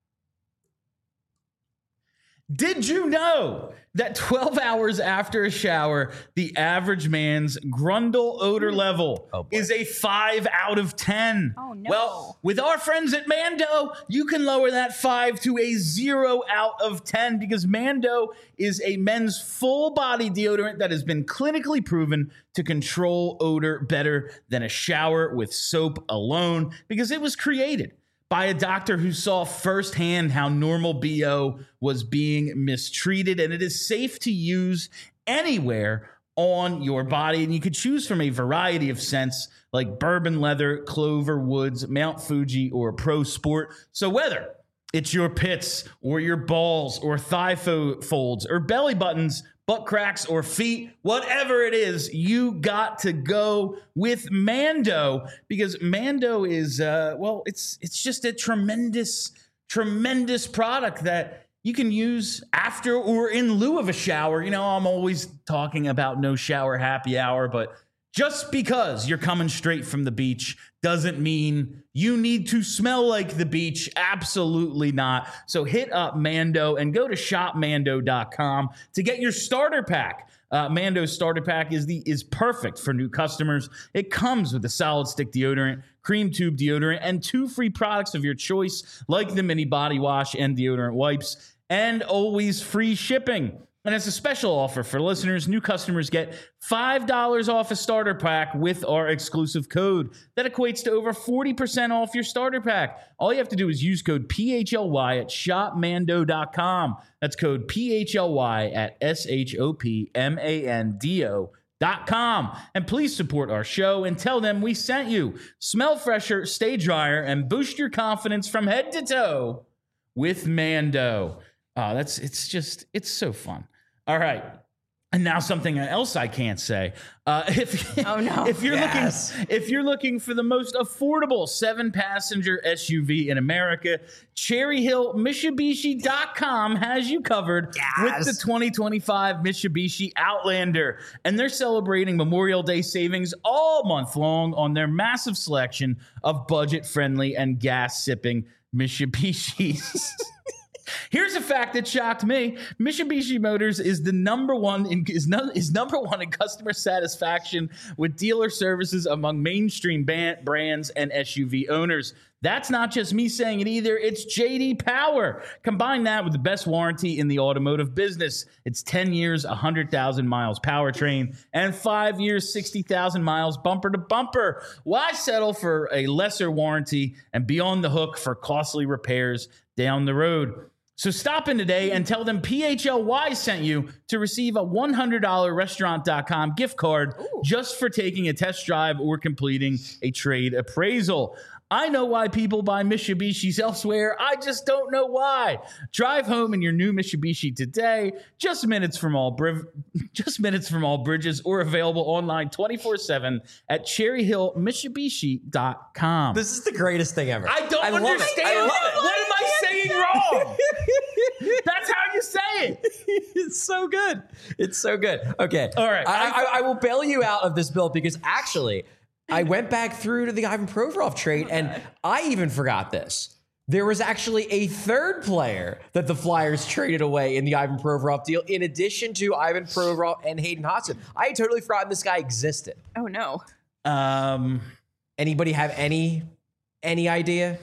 Did you know that 12 hours after a shower, the average man's Grundle odor level is a 5 out of 10? Oh, no. Well, with our friends at Mando, you can lower that 5 to a 0 out of 10 because Mando is a men's full body deodorant that has been clinically proven to control odor better than a shower with soap alone because it was created by a doctor who saw firsthand how normal BO was being mistreated, and it is safe to use anywhere on your body. And you could choose from a variety of scents like bourbon leather, clover woods, Mount Fuji, or Pro Sport. So whether it's your pits or your balls or thigh folds or belly buttons, butt cracks or feet, whatever it is, you got to go with Mando because Mando is, it's just a tremendous product that you can use after or in lieu of a shower. You know, I'm always talking about no shower happy hour, but just because you're coming straight from the beach doesn't mean you need to smell like the beach. Absolutely not. So hit up Mando and go to shopmando.com to get your starter pack. Mando's starter pack is perfect for new customers. It comes with a solid stick deodorant, cream tube deodorant, and 2 free products of your choice, like the mini body wash and deodorant wipes, and always free shipping. And as a special offer for listeners, new customers get $5 off a starter pack with our exclusive code. That equates to over 40% off your starter pack. All you have to do is use code PHLY at shopmando.com. That's code PHLY at SHOPMANDO.com. And please support our show and tell them we sent you. Smell fresher, stay drier, and boost your confidence from head to toe with Mando. It's so fun. All right. And now something else I can't say. Oh, no. If you're looking for the most affordable 7-passenger SUV in America, Cherry Hill Mitsubishi.com has you covered with the 2025 Mitsubishi Outlander. And they're celebrating Memorial Day savings all month long on their massive selection of budget-friendly and gas-sipping Mitsubishis. Here's a fact that shocked me. Mitsubishi Motors is number one in customer satisfaction with dealer services among mainstream brands and SUV owners. That's not just me saying it either. It's J.D. Power. Combine that with the best warranty in the automotive business. It's 10 years, 100,000 miles powertrain, and 5 years, 60,000 miles bumper to bumper. Why settle for a lesser warranty and be on the hook for costly repairs down the road? So stop in today and tell them PHLY sent you to receive a $100 restaurant.com gift card just for taking a test drive or completing a trade appraisal. I know why people buy Mitsubishis elsewhere. I just don't know why. Drive home in your new Mitsubishi today. Just minutes from all bridges, or available online 24/7 at cherryhillmitsubishi.com. This is the greatest thing ever. I don't understand it. What am I saying wrong? That's how you say it. It's so good. It's so good. Okay. All right. I will bail you out of this build because actually I went back through to the Ivan Provorov trade and I even forgot this. There was actually a third player that the Flyers traded away in the Ivan Provorov deal in addition to Ivan Provorov and Hayden Hodgson. I had totally forgotten this guy existed. Oh, no. Anybody have any idea?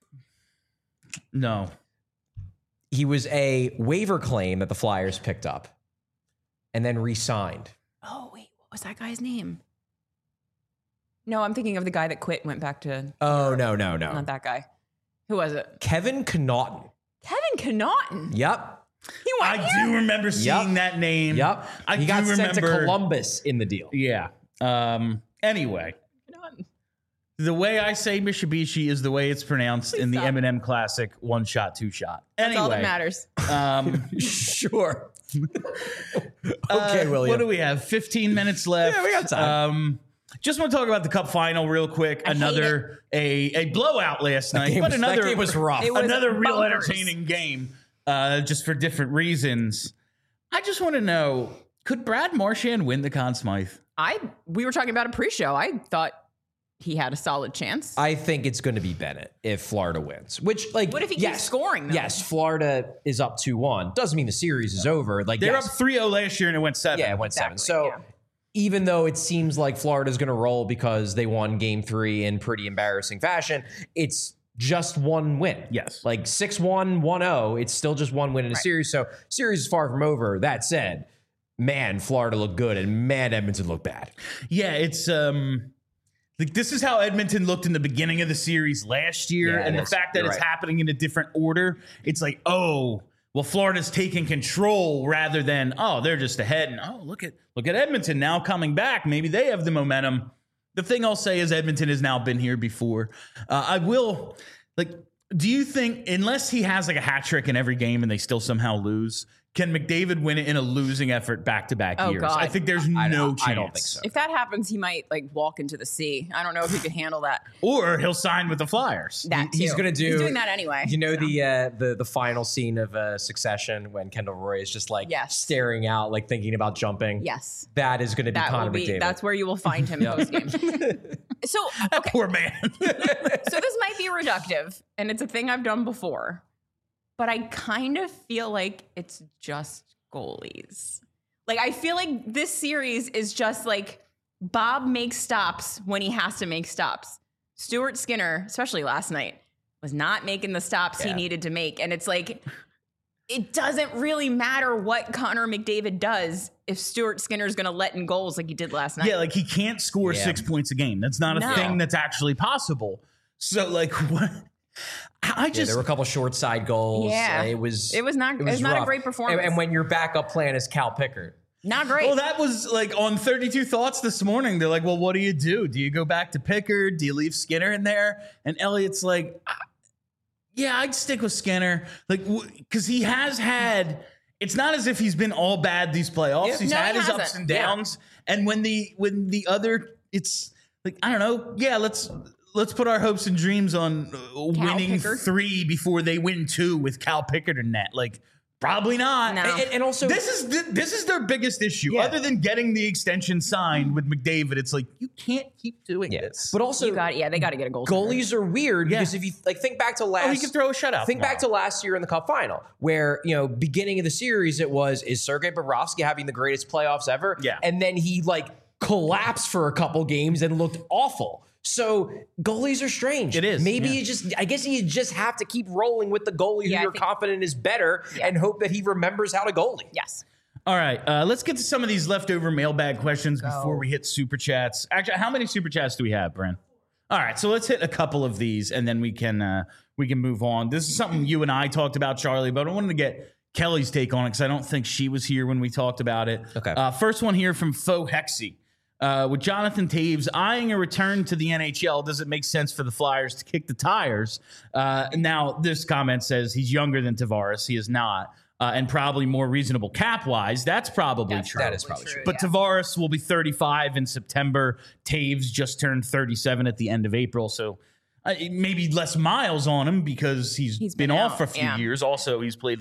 No. He was a waiver claim that the Flyers picked up and then re-signed. Oh, wait. What was that guy's name? No, I'm thinking of the guy that quit and went back to... Oh, no. Not that guy. Who was it? Kevin Connaughton. Kevin Connaughton? Yep. He went I do remember seeing that name. Yep. He got sent to Columbus in the deal. Yeah. Anyway. Connaughton. The way I say Mitsubishi is the way it's pronounced in the stop. Eminem classic, One Shot, Two Shot. That's Anyway, all that matters. Sure. Okay, William. What do we have? 15 minutes left. Yeah, we got time. Just want to talk about the Cup final real quick. Another a blowout last night, but that game was rough. It was another real bonkers. entertaining game, just for different reasons. I just want to know, could Brad Marchand win the Conn Smythe? We were talking about a pre-show. I thought he had a solid chance. I think it's going to be Bennett if Florida wins. Which, like, What if he keeps scoring, though? Yes, Florida is up 2-1. Doesn't mean the series is over. Like, They're yes. up 3-0 last year and it went 7. Yeah, it went 7. Exactly, So yeah. even though it seems like Florida's going to roll because they won Game 3 in pretty embarrassing fashion, it's just one win. Yes. Like 6-1, 1-0. It's still just one win in a series. So series is far from over. That said, man, Florida looked good and man, Edmonton looked bad. Yeah, it's like this is how Edmonton looked in the beginning of the series last year, Yeah, and it the is. fact that You're it's right. happening in a different order, it's like, oh, well, Florida's taking control rather than, oh, they're just ahead, and oh, look at Edmonton now coming back. Maybe they have the momentum. The thing I'll say is Edmonton has now been here before. Do you think, unless he has like a hat trick in every game and they still somehow lose, can McDavid win it in a losing effort back-to-back Oh, years? God. I think there's no chance. I don't think so. If that happens, he might like walk into the sea. I don't know if he could handle that. Or he'll sign with the Flyers. That He's too. going to do. He's doing that anyway. You know the final scene of Succession when Kendall Roy is just like Yes. staring out, like thinking about jumping. Yes. That is going to be That will Connor be. McDavid. That's where you will find him post game. So okay. Poor man. So this might be reductive, and it's a thing I've done before, but I kind of feel like it's just goalies. Like, I feel like this series is just like Bob makes stops when he has to make stops. Stuart Skinner, especially last night, was not making the stops he needed to make. And it's like, it doesn't really matter what Connor McDavid does if Stuart Skinner's going to let in goals like he did last night. Yeah, like he can't score 6 points a game. That's not a No. thing that's actually possible. So, like, what? there were a couple short side goals. Yeah. It was not a rough. great performance. And when your backup plan is Cal Pickard. Not great. Well, that was like on 32 Thoughts this morning. They're like, well, what do you do? Do you go back to Pickard? Do you leave Skinner in there? And Elliott's like, yeah, I'd stick with Skinner. Like, because he has had it's not as if he's been all bad these playoffs. Yeah. He's No, had he his ups hasn't. and downs. And when the other, it's like, I don't know. Yeah, let's put our hopes and dreams on winning Pickard. 3 before they win 2 with Cal Pickard and net. Like, probably not. No. And also, This is their biggest issue. Yeah. Other than getting the extension signed with McDavid, it's like, you can't keep doing this. but also, they got to get a goal. goalies are weird because if you think back to last, he could throw a shutout. Think back to last year in the Cup final, where beginning of the series it was, is Sergei Bobrovsky having the greatest playoffs ever? Yeah. And then he collapsed for a couple games and looked awful. So goalies are strange. It is, Maybe yeah. I guess you just have to keep rolling with the goalie who Yeah, I you're think- confident is better and hope that he remembers how to goalie. Yes. All right, let's get to some of these leftover mailbag questions before we hit super chats. Actually, how many super chats do we have, Bren? All right, so let's hit a couple of these, and then we can move on. This is something you and I talked about, Charlie, but I wanted to get Kelly's take on it because I don't think she was here when we talked about it. Okay. First one here from Faux Hexy. With Jonathan Taves eyeing a return to the NHL, does it make sense for the Flyers to kick the tires? Now, this comment says he's younger than Tavares. He is not. And probably more reasonable cap-wise. That's probably true. That is probably true. But Tavares will be 35 in September. Taves just turned 37 at the end of April. So maybe less miles on him because he's been off out, for a few years. Also, he's played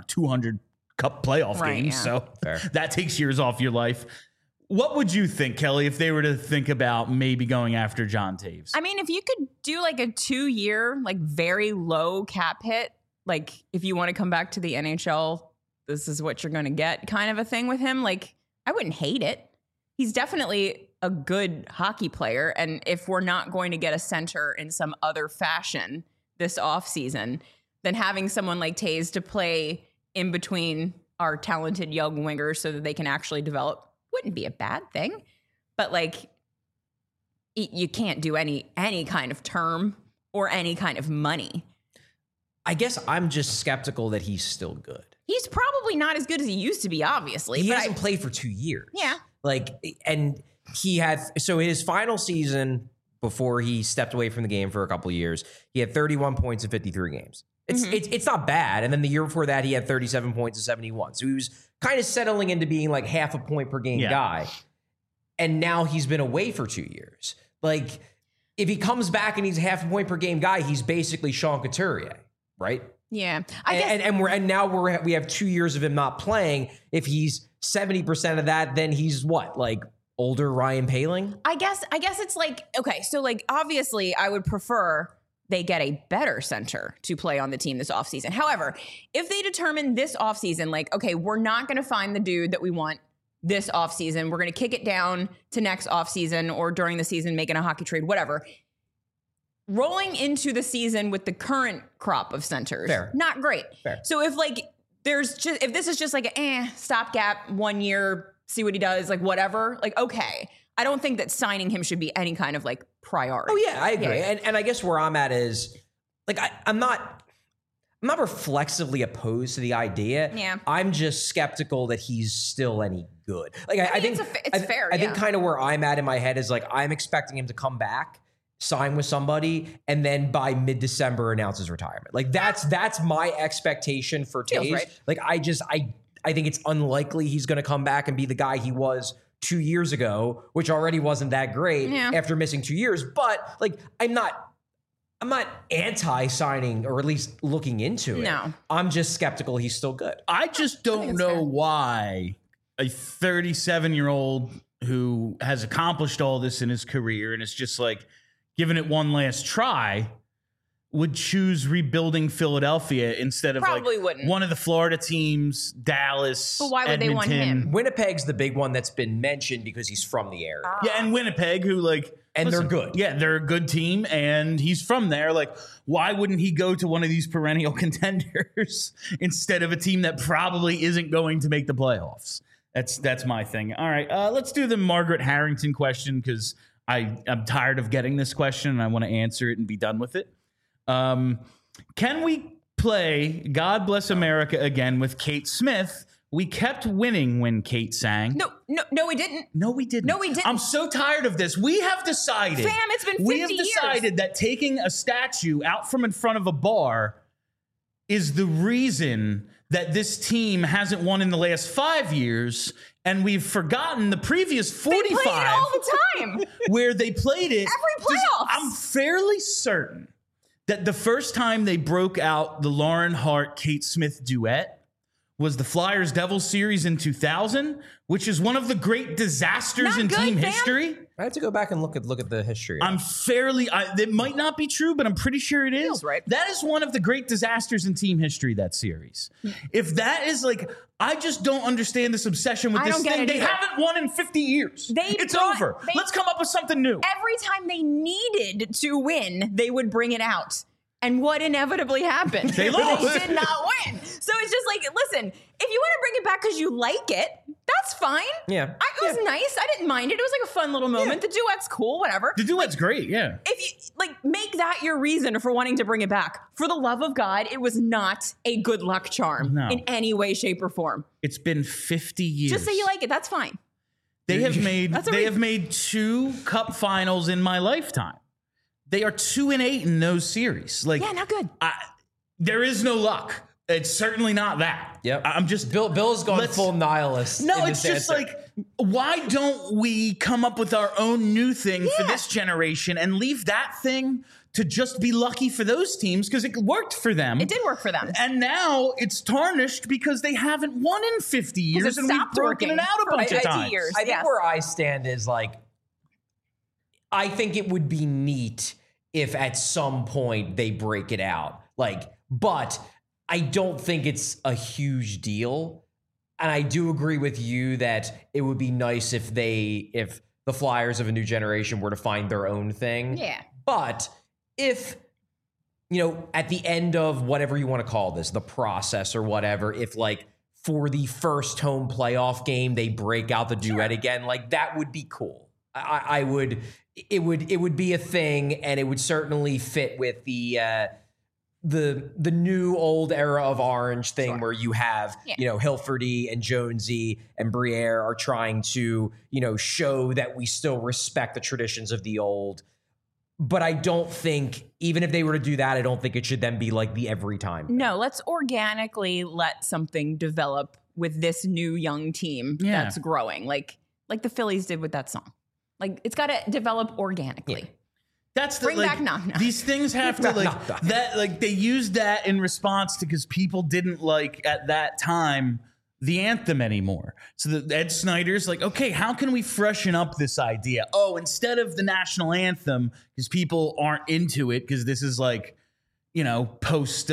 200 Cup playoff games. yeah. So Fair. that takes years off your life. What would you think, Kelly, if they were to think about maybe going after John Taves? I mean, if you could do a 2-year, very low cap hit, if you want to come back to the NHL, this is what you're going to get kind of a thing with him. I wouldn't hate it. He's definitely a good hockey player. And if we're not going to get a center in some other fashion this offseason, then having someone like Taves to play in between our talented young wingers so that they can actually develop wouldn't be a bad thing. But you can't do any kind of term or any kind of money. I guess I'm just skeptical that he's still good. He's probably not as good as he used to be, obviously. He but hasn't played for 2 years. Yeah. And he had, so his final season before he stepped away from the game for a couple of years, he had 31 points in 53 games. It's not bad. And then the year before that, he had 37 points in 71. So he was kind of settling into being half a point per game guy. And now he's been away for 2 years. If he comes back and he's half a point per game guy, he's basically Sean Couturier, right? Yeah. I guess And now we have 2 years of him not playing. If he's 70% of that, then he's what? Older Ryan Poehling? I guess it's okay, so obviously I would prefer they get a better center to play on the team this offseason. However, if they determine this offseason, okay, we're not going to find the dude that we want this offseason, we're going to kick it down to next offseason or during the season, making a hockey trade, whatever. Rolling into the season with the current crop of centers, Fair. not great. Fair. So if if this is just a stopgap, 1 year, see what he does, whatever, okay. I don't think that signing him should be any kind of priority. Oh yeah, I agree. Yeah. And I guess where I'm at is I'm not reflexively opposed to the idea. Yeah. I'm just skeptical that he's still any good. I think it's fair. I think kind of where I'm at in my head is I'm expecting him to come back, sign with somebody, and then by mid-December announce his retirement. That's my expectation for Feels Taves. right. I think it's unlikely he's going to come back and be the guy he was 2 years ago, which already wasn't that great after missing 2 years. But I'm not anti-signing or at least looking into it. No. I'm just skeptical he's still good. I just don't it's know fair. why a 37-year-old who has accomplished all this in his career and is just giving it one last try would choose rebuilding Philadelphia instead of Probably wouldn't. one of the Florida teams, Dallas. But why would they want Edmonton. him? Winnipeg's the big one that's been mentioned because he's from the area. Yeah, and Winnipeg, who And they're good. Yeah, they're a good team, and he's from there. Why wouldn't he go to one of these perennial contenders instead of a team that probably isn't going to make the playoffs? That's my thing. All right, let's do the Margaret Harrington question because I'm tired of getting this question and I want to answer it and be done with it. Can we play God Bless America again with Kate Smith? We kept winning when Kate sang. No, we didn't. No, we didn't. No, we didn't. I'm so tired of this. We have decided. Fam, it's been 50 We have years. decided that taking a statue out from in front of a bar is the reason that this team hasn't won in the last 5 years, and we've forgotten the previous 45 They play it all the time. where they played it. Every playoffs. I'm fairly certain that the first time they broke out the Lauren Hart-Kate Smith duet was the Flyers Devils series in 2000, which is one of the great disasters Not in good, team fam. history. I have to go back and look at the history. It might not be true, but I'm pretty sure it is. Feels right. That is one of the great disasters in team history, that series. If that is like, I just don't understand this obsession with I this don't get thing. it They either. haven't won in 50 years. It's brought- over. Let's come up with something new. Every time they needed to win, they would bring it out. And what inevitably happened? They lost. They did not win. So it's just like, listen, if you want to bring it back because you like it, that's fine. Yeah. It was nice. I didn't mind it. It was like a fun little moment. The duet's cool, whatever. The duet's great, yeah. If you make that your reason for wanting to bring it back, for the love of God, it was not a good luck charm in any way, shape, or form. It's been 50 years. Just say you like it. That's fine. They have made That's a they reason. have made 2 cup finals in my lifetime. They are 2-8 in those series. Like, Yeah, not good. there is no luck. It's certainly not that. Yep. I'm just Bill's gone Let's- full nihilist. No, in it's this just answer. like, why don't we come up with our own new thing for Yeah. this generation and leave that thing to just be lucky for those teams because it worked for them. It did work for them. And now it's tarnished because they haven't won in 50 years it and we've stopped broken working it out a for bunch of 50 times. years. I think Yes. where I stand is like, I think it would be neat if at some point they break it out. Like, but I don't think it's a huge deal. And I do agree with you that it would be nice if the Flyers of a new generation were to find their own thing. Yeah. But if, at the end of whatever you want to call this, the process or whatever, if like for the first home playoff game, they break out the duet again, like that would be cool. It would be a thing, and it would certainly fit with the new old era of Orange thing where you have, Hilferty and Jonesy and Briere are trying to, show that we still respect the traditions of the old. But I don't think, even if they were to do that, I don't think it should then be like the every time. No, let's organically let something develop with this new young team Yeah. that's growing, like the Phillies did with that song. Like, it's got to develop organically. Yeah. That's the Bring back Knock Knock. These things have to Knock Knock. they used that in response to because people didn't like at that time the anthem anymore. So Ed Snyder's like, okay, how can we freshen up this idea? Oh, instead of the national anthem, because people aren't into it, because this is like, post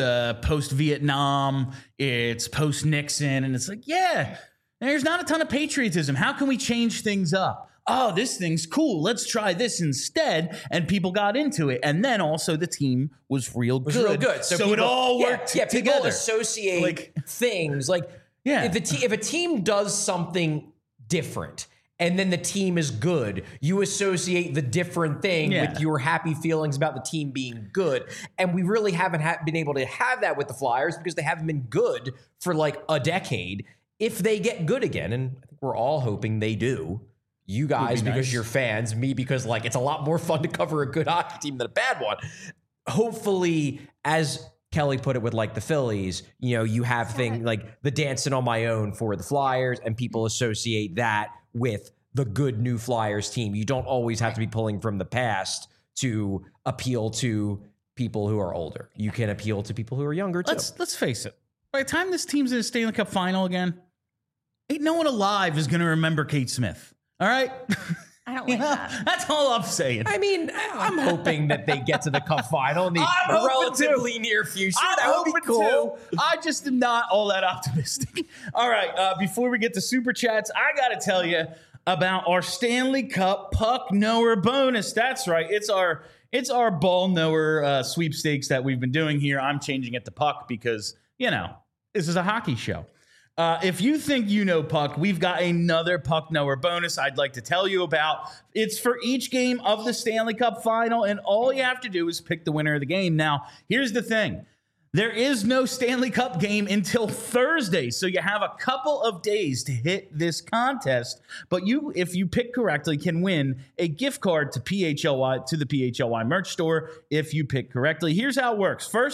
Vietnam, it's post Nixon, and it's like, yeah, there's not a ton of patriotism. How can we change things up? Oh, this thing's cool. Let's try this instead. And people got into it. And then also the team was real good. Real good. So people, it all worked People together. associate Like- things like if a team does something different and then the team is good, you associate the different thing with your happy feelings about the team being good. And we really haven't been able to have that with the Flyers because they haven't been good for like a decade. If they get good again, and I think we're all hoping they do. You guys, because nice. you're fans, me, because like it's a lot more fun to cover a good hockey team than a bad one. Hopefully, as Kelly put it with like the Phillies, you have things like the Dancing on My Own for the Flyers, and people associate that with the good new Flyers team. You don't always have to be pulling from the past to appeal to people who are older. You can appeal to people who are younger too. Let's face it. By the time this team's in a Stanley Cup final again, ain't no one alive is going to remember Kate Smith. All right? I don't like that. That's all I'm saying. I mean, I'm hoping that they get to the Cup final in the I'm hoping relatively near future. I'm That would be hoping cool. too. I just am not all that optimistic. All right, before we get to Super Chats, I got to tell you about our Stanley Cup Puck Knower bonus. That's right. It's our ball knower sweepstakes that we've been doing here. I'm changing it to Puck because, this is a hockey show. If you think you know Puck, we've got another Puck Knower bonus I'd like to tell you about. It's for each game of the Stanley Cup final, and all you have to do is pick the winner of the game. Now, here's the thing. There is no Stanley Cup game until Thursday, so you have a couple of days to hit this contest. But you, if you pick correctly, can win a gift card to the PHLY merch store if you pick correctly. Here's how it works. First,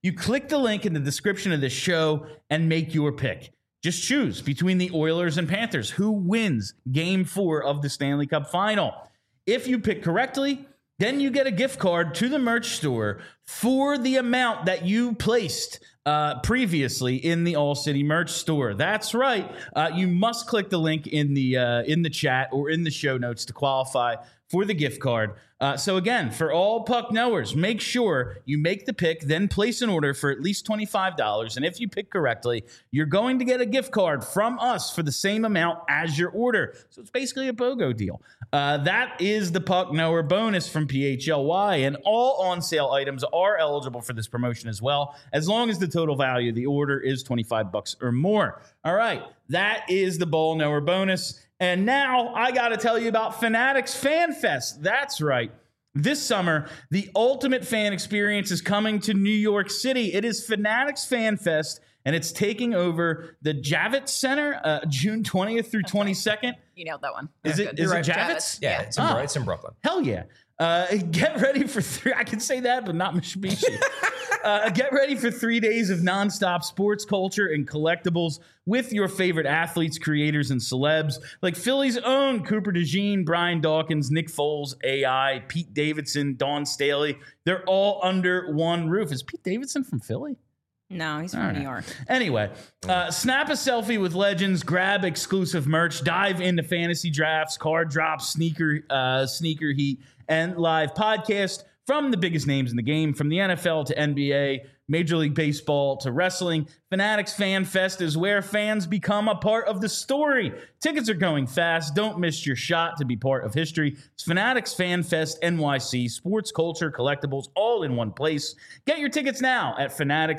You click the link in the description of this show and make your pick. Just choose between the Oilers and Panthers. Who wins Game 4 of the Stanley Cup Final? If you pick correctly, then you get a gift card to the merch store for the amount that you placed previously in the All City merch store. That's right. You must click the link in the chat or in the show notes to qualify for the gift card. So again, for all puck knowers, make sure you make the pick, then place an order for at least $25. And if you pick correctly, you're going to get a gift card from us for the same amount as your order. So it's basically a BOGO deal. That is the puck knower bonus from PHLY, and all on-sale items are eligible for this promotion as well, as long as the total value of the order is $25 or more. All right, that is the ball knower bonus. And now I got to tell you about Fanatics Fan Fest. That's right. This summer, the ultimate fan experience is coming to New York City. It is Fanatics Fan Fest, and it's taking over the Javits Center June 20th through 22nd. You nailed that one. Is it Javits? Yeah, it's in Brooklyn. Hell yeah. Get ready for I can say that, but not Mitsubishi. Get ready for 3 days of nonstop sports culture and collectibles with your favorite athletes, creators, and celebs like Philly's own Cooper DeJean, Brian Dawkins, Nick Foles, AI, Pete Davidson, Dawn Staley. They're all under one roof. Is Pete Davidson from Philly? No, he's from New York. Anyway, snap a selfie with legends, grab exclusive merch, dive into fantasy drafts, card drops, sneaker heat, and live podcast from the biggest names in the game, from the NFL to NBA, Major League Baseball to wrestling. Fanatics Fan Fest is where fans become a part of the story. Tickets are going fast. Don't miss your shot to be part of history. It's Fanatics Fan Fest NYC, sports, culture, collectibles, all in one place. Get your tickets now at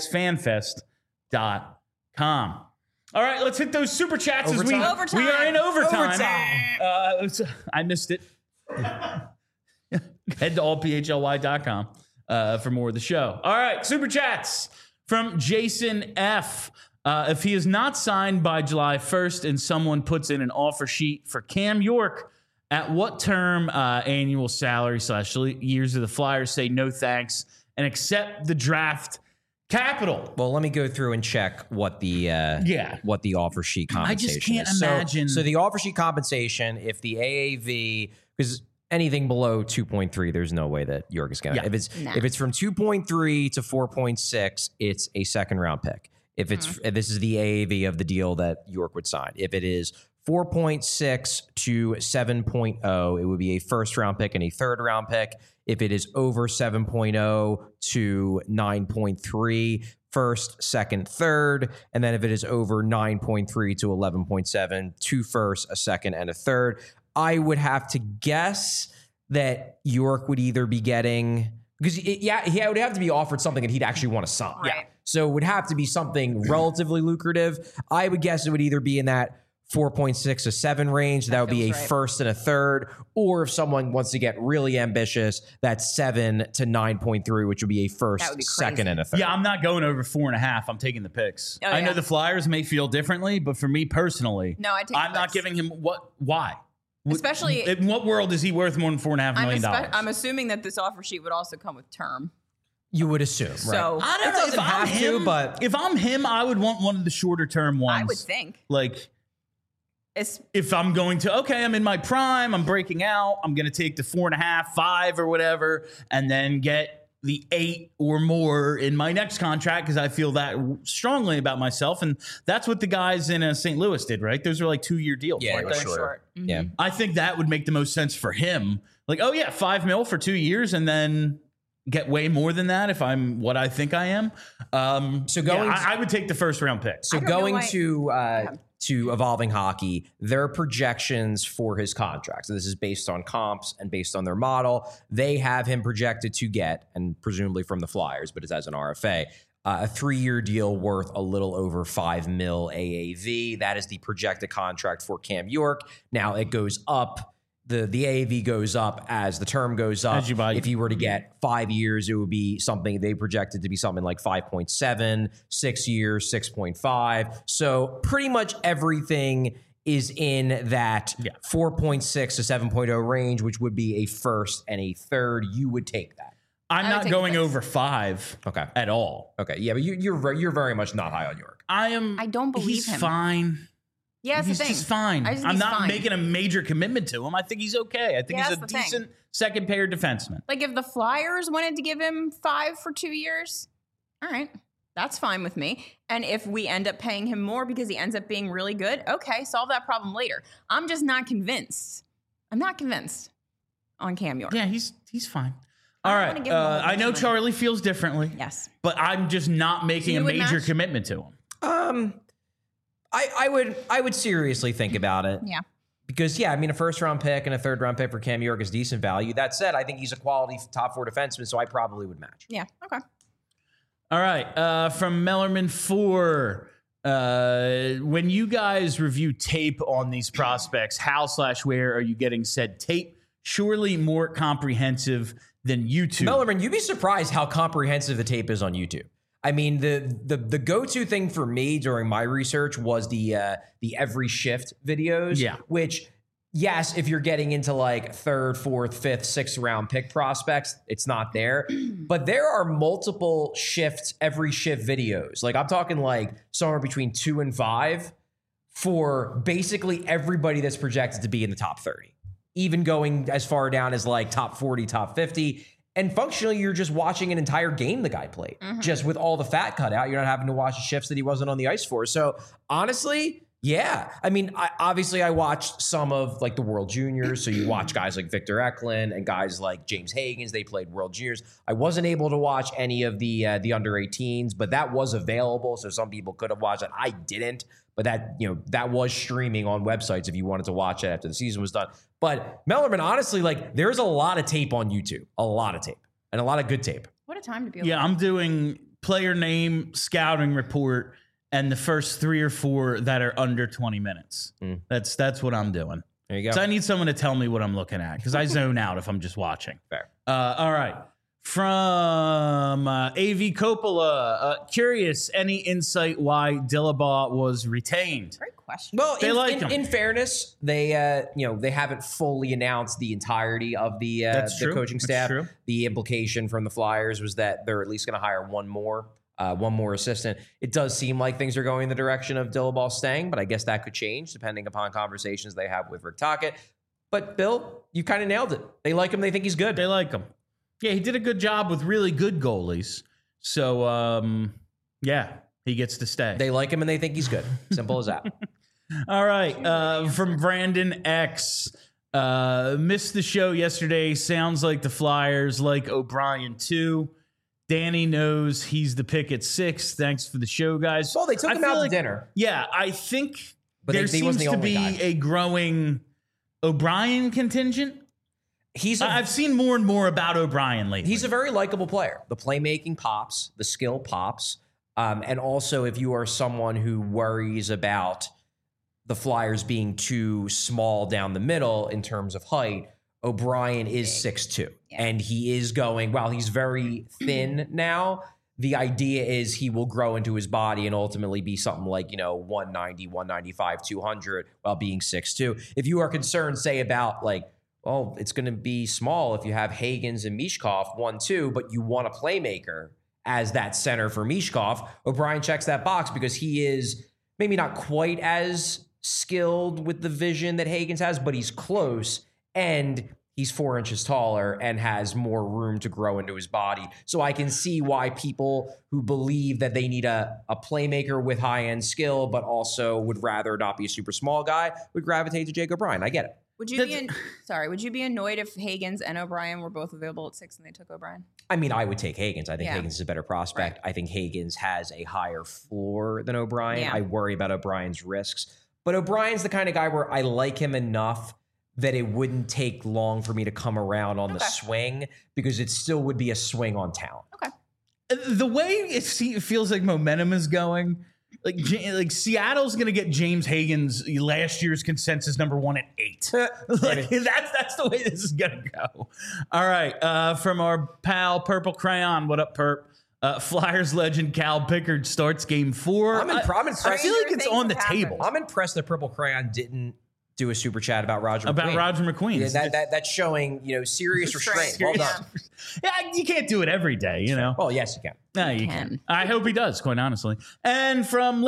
fanaticsfanfest.com. All right, let's hit those super chats as we are in overtime. I missed it. Head to allphly.com for more of the show. All right, super chats from Jason F. If he is not signed by July 1st and someone puts in an offer sheet for Cam York, at what term, annual salary / years of the Flyers say no thanks and accept the draft capital? Well, let me go through and check what the offer sheet compensation I just can't is. imagine. So the offer sheet compensation, if the AAV, because anything below 2.3, there's no way that York is going to. If it's from 2.3 to 4.6, it's a second round pick. If this is the AAV of the deal that York would sign. If it is 4.6 to 7.0, it would be a first round pick and a third round pick. If it is over 7.0 to 9.3, first, second, third. And then if it is over 9.3 to 11.7, two first, a second, and a third. I would have to guess that York would either be getting, because he would have to be offered something that he'd actually want to sign. Right. Yeah. So it would have to be something relatively lucrative. I would guess it would either be in that 4.6 to 7 range. That would be a first and a third. Or if someone wants to get really ambitious, that's 7 to 9.3, which would be a first, second, and a third. Yeah, I'm not going over 4.5. I'm taking the picks. I know the Flyers may feel differently, but for me personally, I'm not giving him why? Especially in what world is he worth more than $4.5 million? I'm assuming that this offer sheet would also come with term. You would assume, so, right? I don't know. If I'm him, I would want one of the shorter term ones. I would think. Like, if I'm going to, I'm in my prime, I'm breaking out, I'm going to take the 4.5, 5 or whatever, and then get the 8 or more in my next contract because I feel that strongly about myself. And that's what the guys in St. Louis did, right? Those are like 2-year deals. Yeah, right? short. Mm-hmm. Yeah. I think that would make the most sense for him. Like, $5 million for 2 years and then get way more than that if I'm what I think I am. I would take the first round pick. So going to Evolving Hockey, their projections for his contract. So this is based on comps and based on their model. They have him projected to get, and presumably from the Flyers, but it's as an RFA, a 3-year deal worth a little over $5 million AAV. That is the projected contract for Cam York. Now it goes up. The AAV goes up as the term goes up. If you were to get 5 years, it would be something they projected to be something like 5.7, 6 years, 6.5. So pretty much everything is in that 4.6 to 7.0 range, which would be a first and a third. You would take that. I'm I would not take going the Knicks. over 5 at all. Okay. Yeah, but you're very much not high on York. I don't believe he's him. Fine. Yeah, that's He's the thing. just fine. I just think I'm he's not fine. making a major commitment to him. I think he's okay. I think Yeah, he's a that's the thing. decent second pair defenseman. Like if the Flyers wanted to give him 5 for 2 years, all right, that's fine with me. And if we end up paying him more because he ends up being really good, okay, solve that problem later. I'm just not convinced. I'm not convinced on Cam York. Yeah, he's fine. I All don't right. wanna give him a whole I bunch know of money. Charlie feels differently. Yes. But I'm just not making you a would major match? commitment to him. I would seriously think about it. Yeah. Because, yeah, I mean, a first-round pick and a third-round pick for Cam York is decent value. That said, I think he's a quality top 4 defenseman, so I probably would match. Yeah. Okay. All right. From Mellerman 4. When you guys review tape on these prospects, how/where are you getting said tape? Surely more comprehensive than YouTube. Mellerman, you'd be surprised how comprehensive the tape is on YouTube. I mean, the go-to thing for me during my research was the every shift videos. Yeah. Which, yes, if you're getting into like 3rd, 4th, 5th, 6th round pick prospects, it's not there. But there are multiple every shift videos. Like I'm talking like somewhere between 2 and 5 for basically everybody that's projected to be in the top 30. Even going as far down as like top 40, top 50. And functionally, you're just watching an entire game the guy played, just with all the fat cut out. You're not having to watch the shifts that he wasn't on the ice for. So honestly, yeah. I mean, I watched some of like the World Juniors. So you watch guys like Victor Eklund and guys like James Higgins. They played World Juniors. I wasn't able to watch any of the under 18s, but that was available. So some people could have watched it. I didn't. But that was streaming on websites if you wanted to watch it after the season was done. But Mellerman, honestly, like there's a lot of tape on YouTube, a lot of tape and a lot of good tape. What a time to be alive. Yeah, I'm doing player name, scouting report, and the first 3 or 4 that are under 20 minutes. That's what I'm doing. There you go. So I need someone to tell me what I'm looking at because I zone out if I'm just watching. Fair. All right. From AV Coppola, curious, any insight why Dillabaugh was retained? Great question. Well, They like him. in fairness, they they haven't fully announced the entirety of the true. coaching That's staff. true. The implication from the Flyers was that they're at least going to hire one more assistant. It does seem like things are going in the direction of Dillabaugh staying, but I guess that could change depending upon conversations they have with Rick Tocchet. But Bill, you kind of nailed it. They like him. They think he's good. They like him. Yeah, he did a good job with really good goalies. So, yeah, he gets to stay. They like him and they think he's good. Simple as that. All right. From Brandon X. Missed the show yesterday. Sounds like the Flyers like O'Brien too. Danny knows he's the pick at 6. Thanks for the show, guys. Well, they took I him feel out to dinner. Yeah, I think But there he seems wasn't the to only be guy. a growing O'Brien contingent. I've seen more and more about O'Brien lately. He's a very likable player. The playmaking pops, the skill pops. And also, if you are someone who worries about the Flyers being too small down the middle in terms of height, O'Brien is 6'2". Yeah. And he is going, while he's very thin now, the idea is he will grow into his body and ultimately be something like, 190, 195, 200 while being 6'2". If you are concerned, say, about like, well, it's going to be small if you have Higgins and Mishkov 1-2, but you want a playmaker as that center for Mishkov. O'Brien checks that box because he is maybe not quite as skilled with the vision that Higgins has, but he's close and he's 4 inches taller and has more room to grow into his body. So I can see why people who believe that they need a playmaker with high-end skill, but also would rather not be a super small guy, would gravitate to Jake O'Brien. I get it. Would you be annoyed if Higgins and O'Brien were both available at 6 and they took O'Brien? I mean, I would take Higgins. I think Yeah. Higgins is a better prospect. Right. I think Higgins has a higher floor than O'Brien. Yeah. I worry about O'Brien's risks. But O'Brien's the kind of guy where I like him enough that it wouldn't take long for me to come around on the swing because it still would be a swing on talent. Okay. The way it feels like momentum is going, like Seattle's going to get James Higgins last year's consensus number 1 at 8. That's the way this is going to go. All right. From our pal Purple Crayon. What up, Perp? Flyers legend Cal Pickard starts game 4. I'm impressed. I feel like it's on the table. I'm impressed that Purple Crayon didn't do a super chat about Roger McQueen. Roger McQueen. Yeah, that's showing, serious restraint. Well done. Yeah, you can't do it every day, Well, yes, you can. No, you can. I hope he does, quite honestly. And from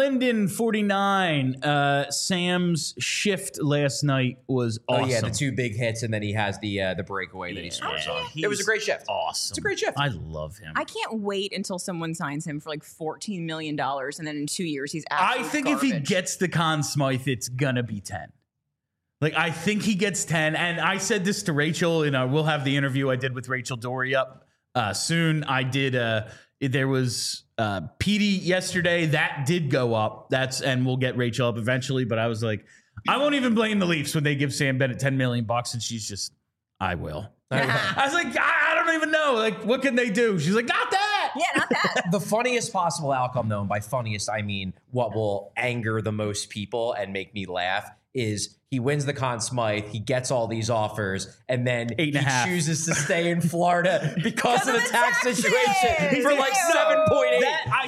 Linden49, Sam's shift last night was awesome. Oh, yeah, the 2 big hits, and then he has the breakaway that he scores on. It was a great shift. Awesome. It's a great shift. I love him. I can't wait until someone signs him for like $14 million, and then in 2 years he's I absolute think garbage. if he gets the Conn Smythe, it's going to be 10. Like, I think he gets 10. And I said this to Rachel, we'll have the interview I did with Rachel Dory up soon. I did, there was PD yesterday. That did go up. And we'll get Rachel up eventually. But I was like, I won't even blame the Leafs when they give Sam Bennett $10 million. And she's just, I will. I was like, I don't even know. Like, what can they do? She's like, not that. Yeah, not that. The funniest possible outcome, though, and by funniest, I mean what will anger the most people and make me laugh, is he wins the Conn Smythe, he gets all these offers, and then he chooses to stay in Florida because of the tax situation for like 7.8.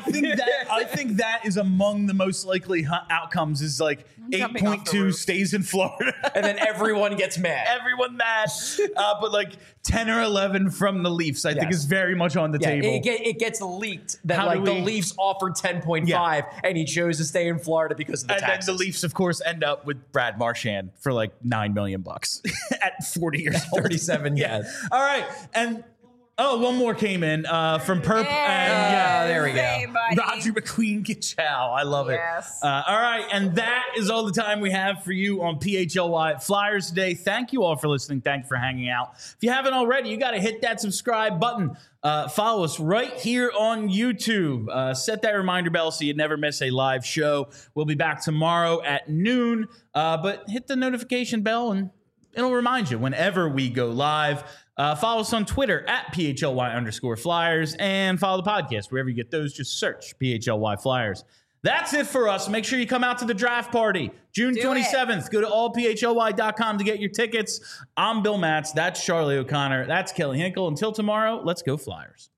I think that is among the most likely outcomes. Is like 8.2 stays in Florida, and then everyone gets mad. Everyone mad, but like 10 or 11 from the Leafs, I think is very much on the table. It gets leaked that the Leafs offered 10.5, and he chose to stay in Florida because of the taxes. And then the Leafs, of course, end up with Brad Marchand for like $9 million at 40 years old. 37, yes. All right, and one more came in from Perp, and there we go. Hey, buddy. Roger McQueen Gichow. I love it. All right, and that is all the time we have for you on PHLY Flyers today. Thank you all for listening. Thank you for hanging out. If you haven't already, you got to hit that subscribe button. Follow us right here on YouTube. Set that reminder bell so you never miss a live show. We'll be back tomorrow at noon, but hit the notification bell and it'll remind you whenever we go live. Follow us on Twitter at PHLY_Flyers and follow the podcast wherever you get those. Just search PHLY Flyers. That's it for us. Make sure you come out to the draft party June 27th. Go to allphly.com to get your tickets. I'm Bill Matz. That's Charlie O'Connor. That's Kelly Hinkle. Until tomorrow, let's go Flyers.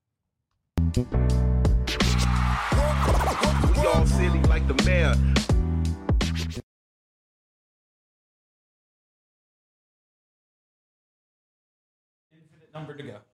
Y'all silly like the mayor. Infinite number to go.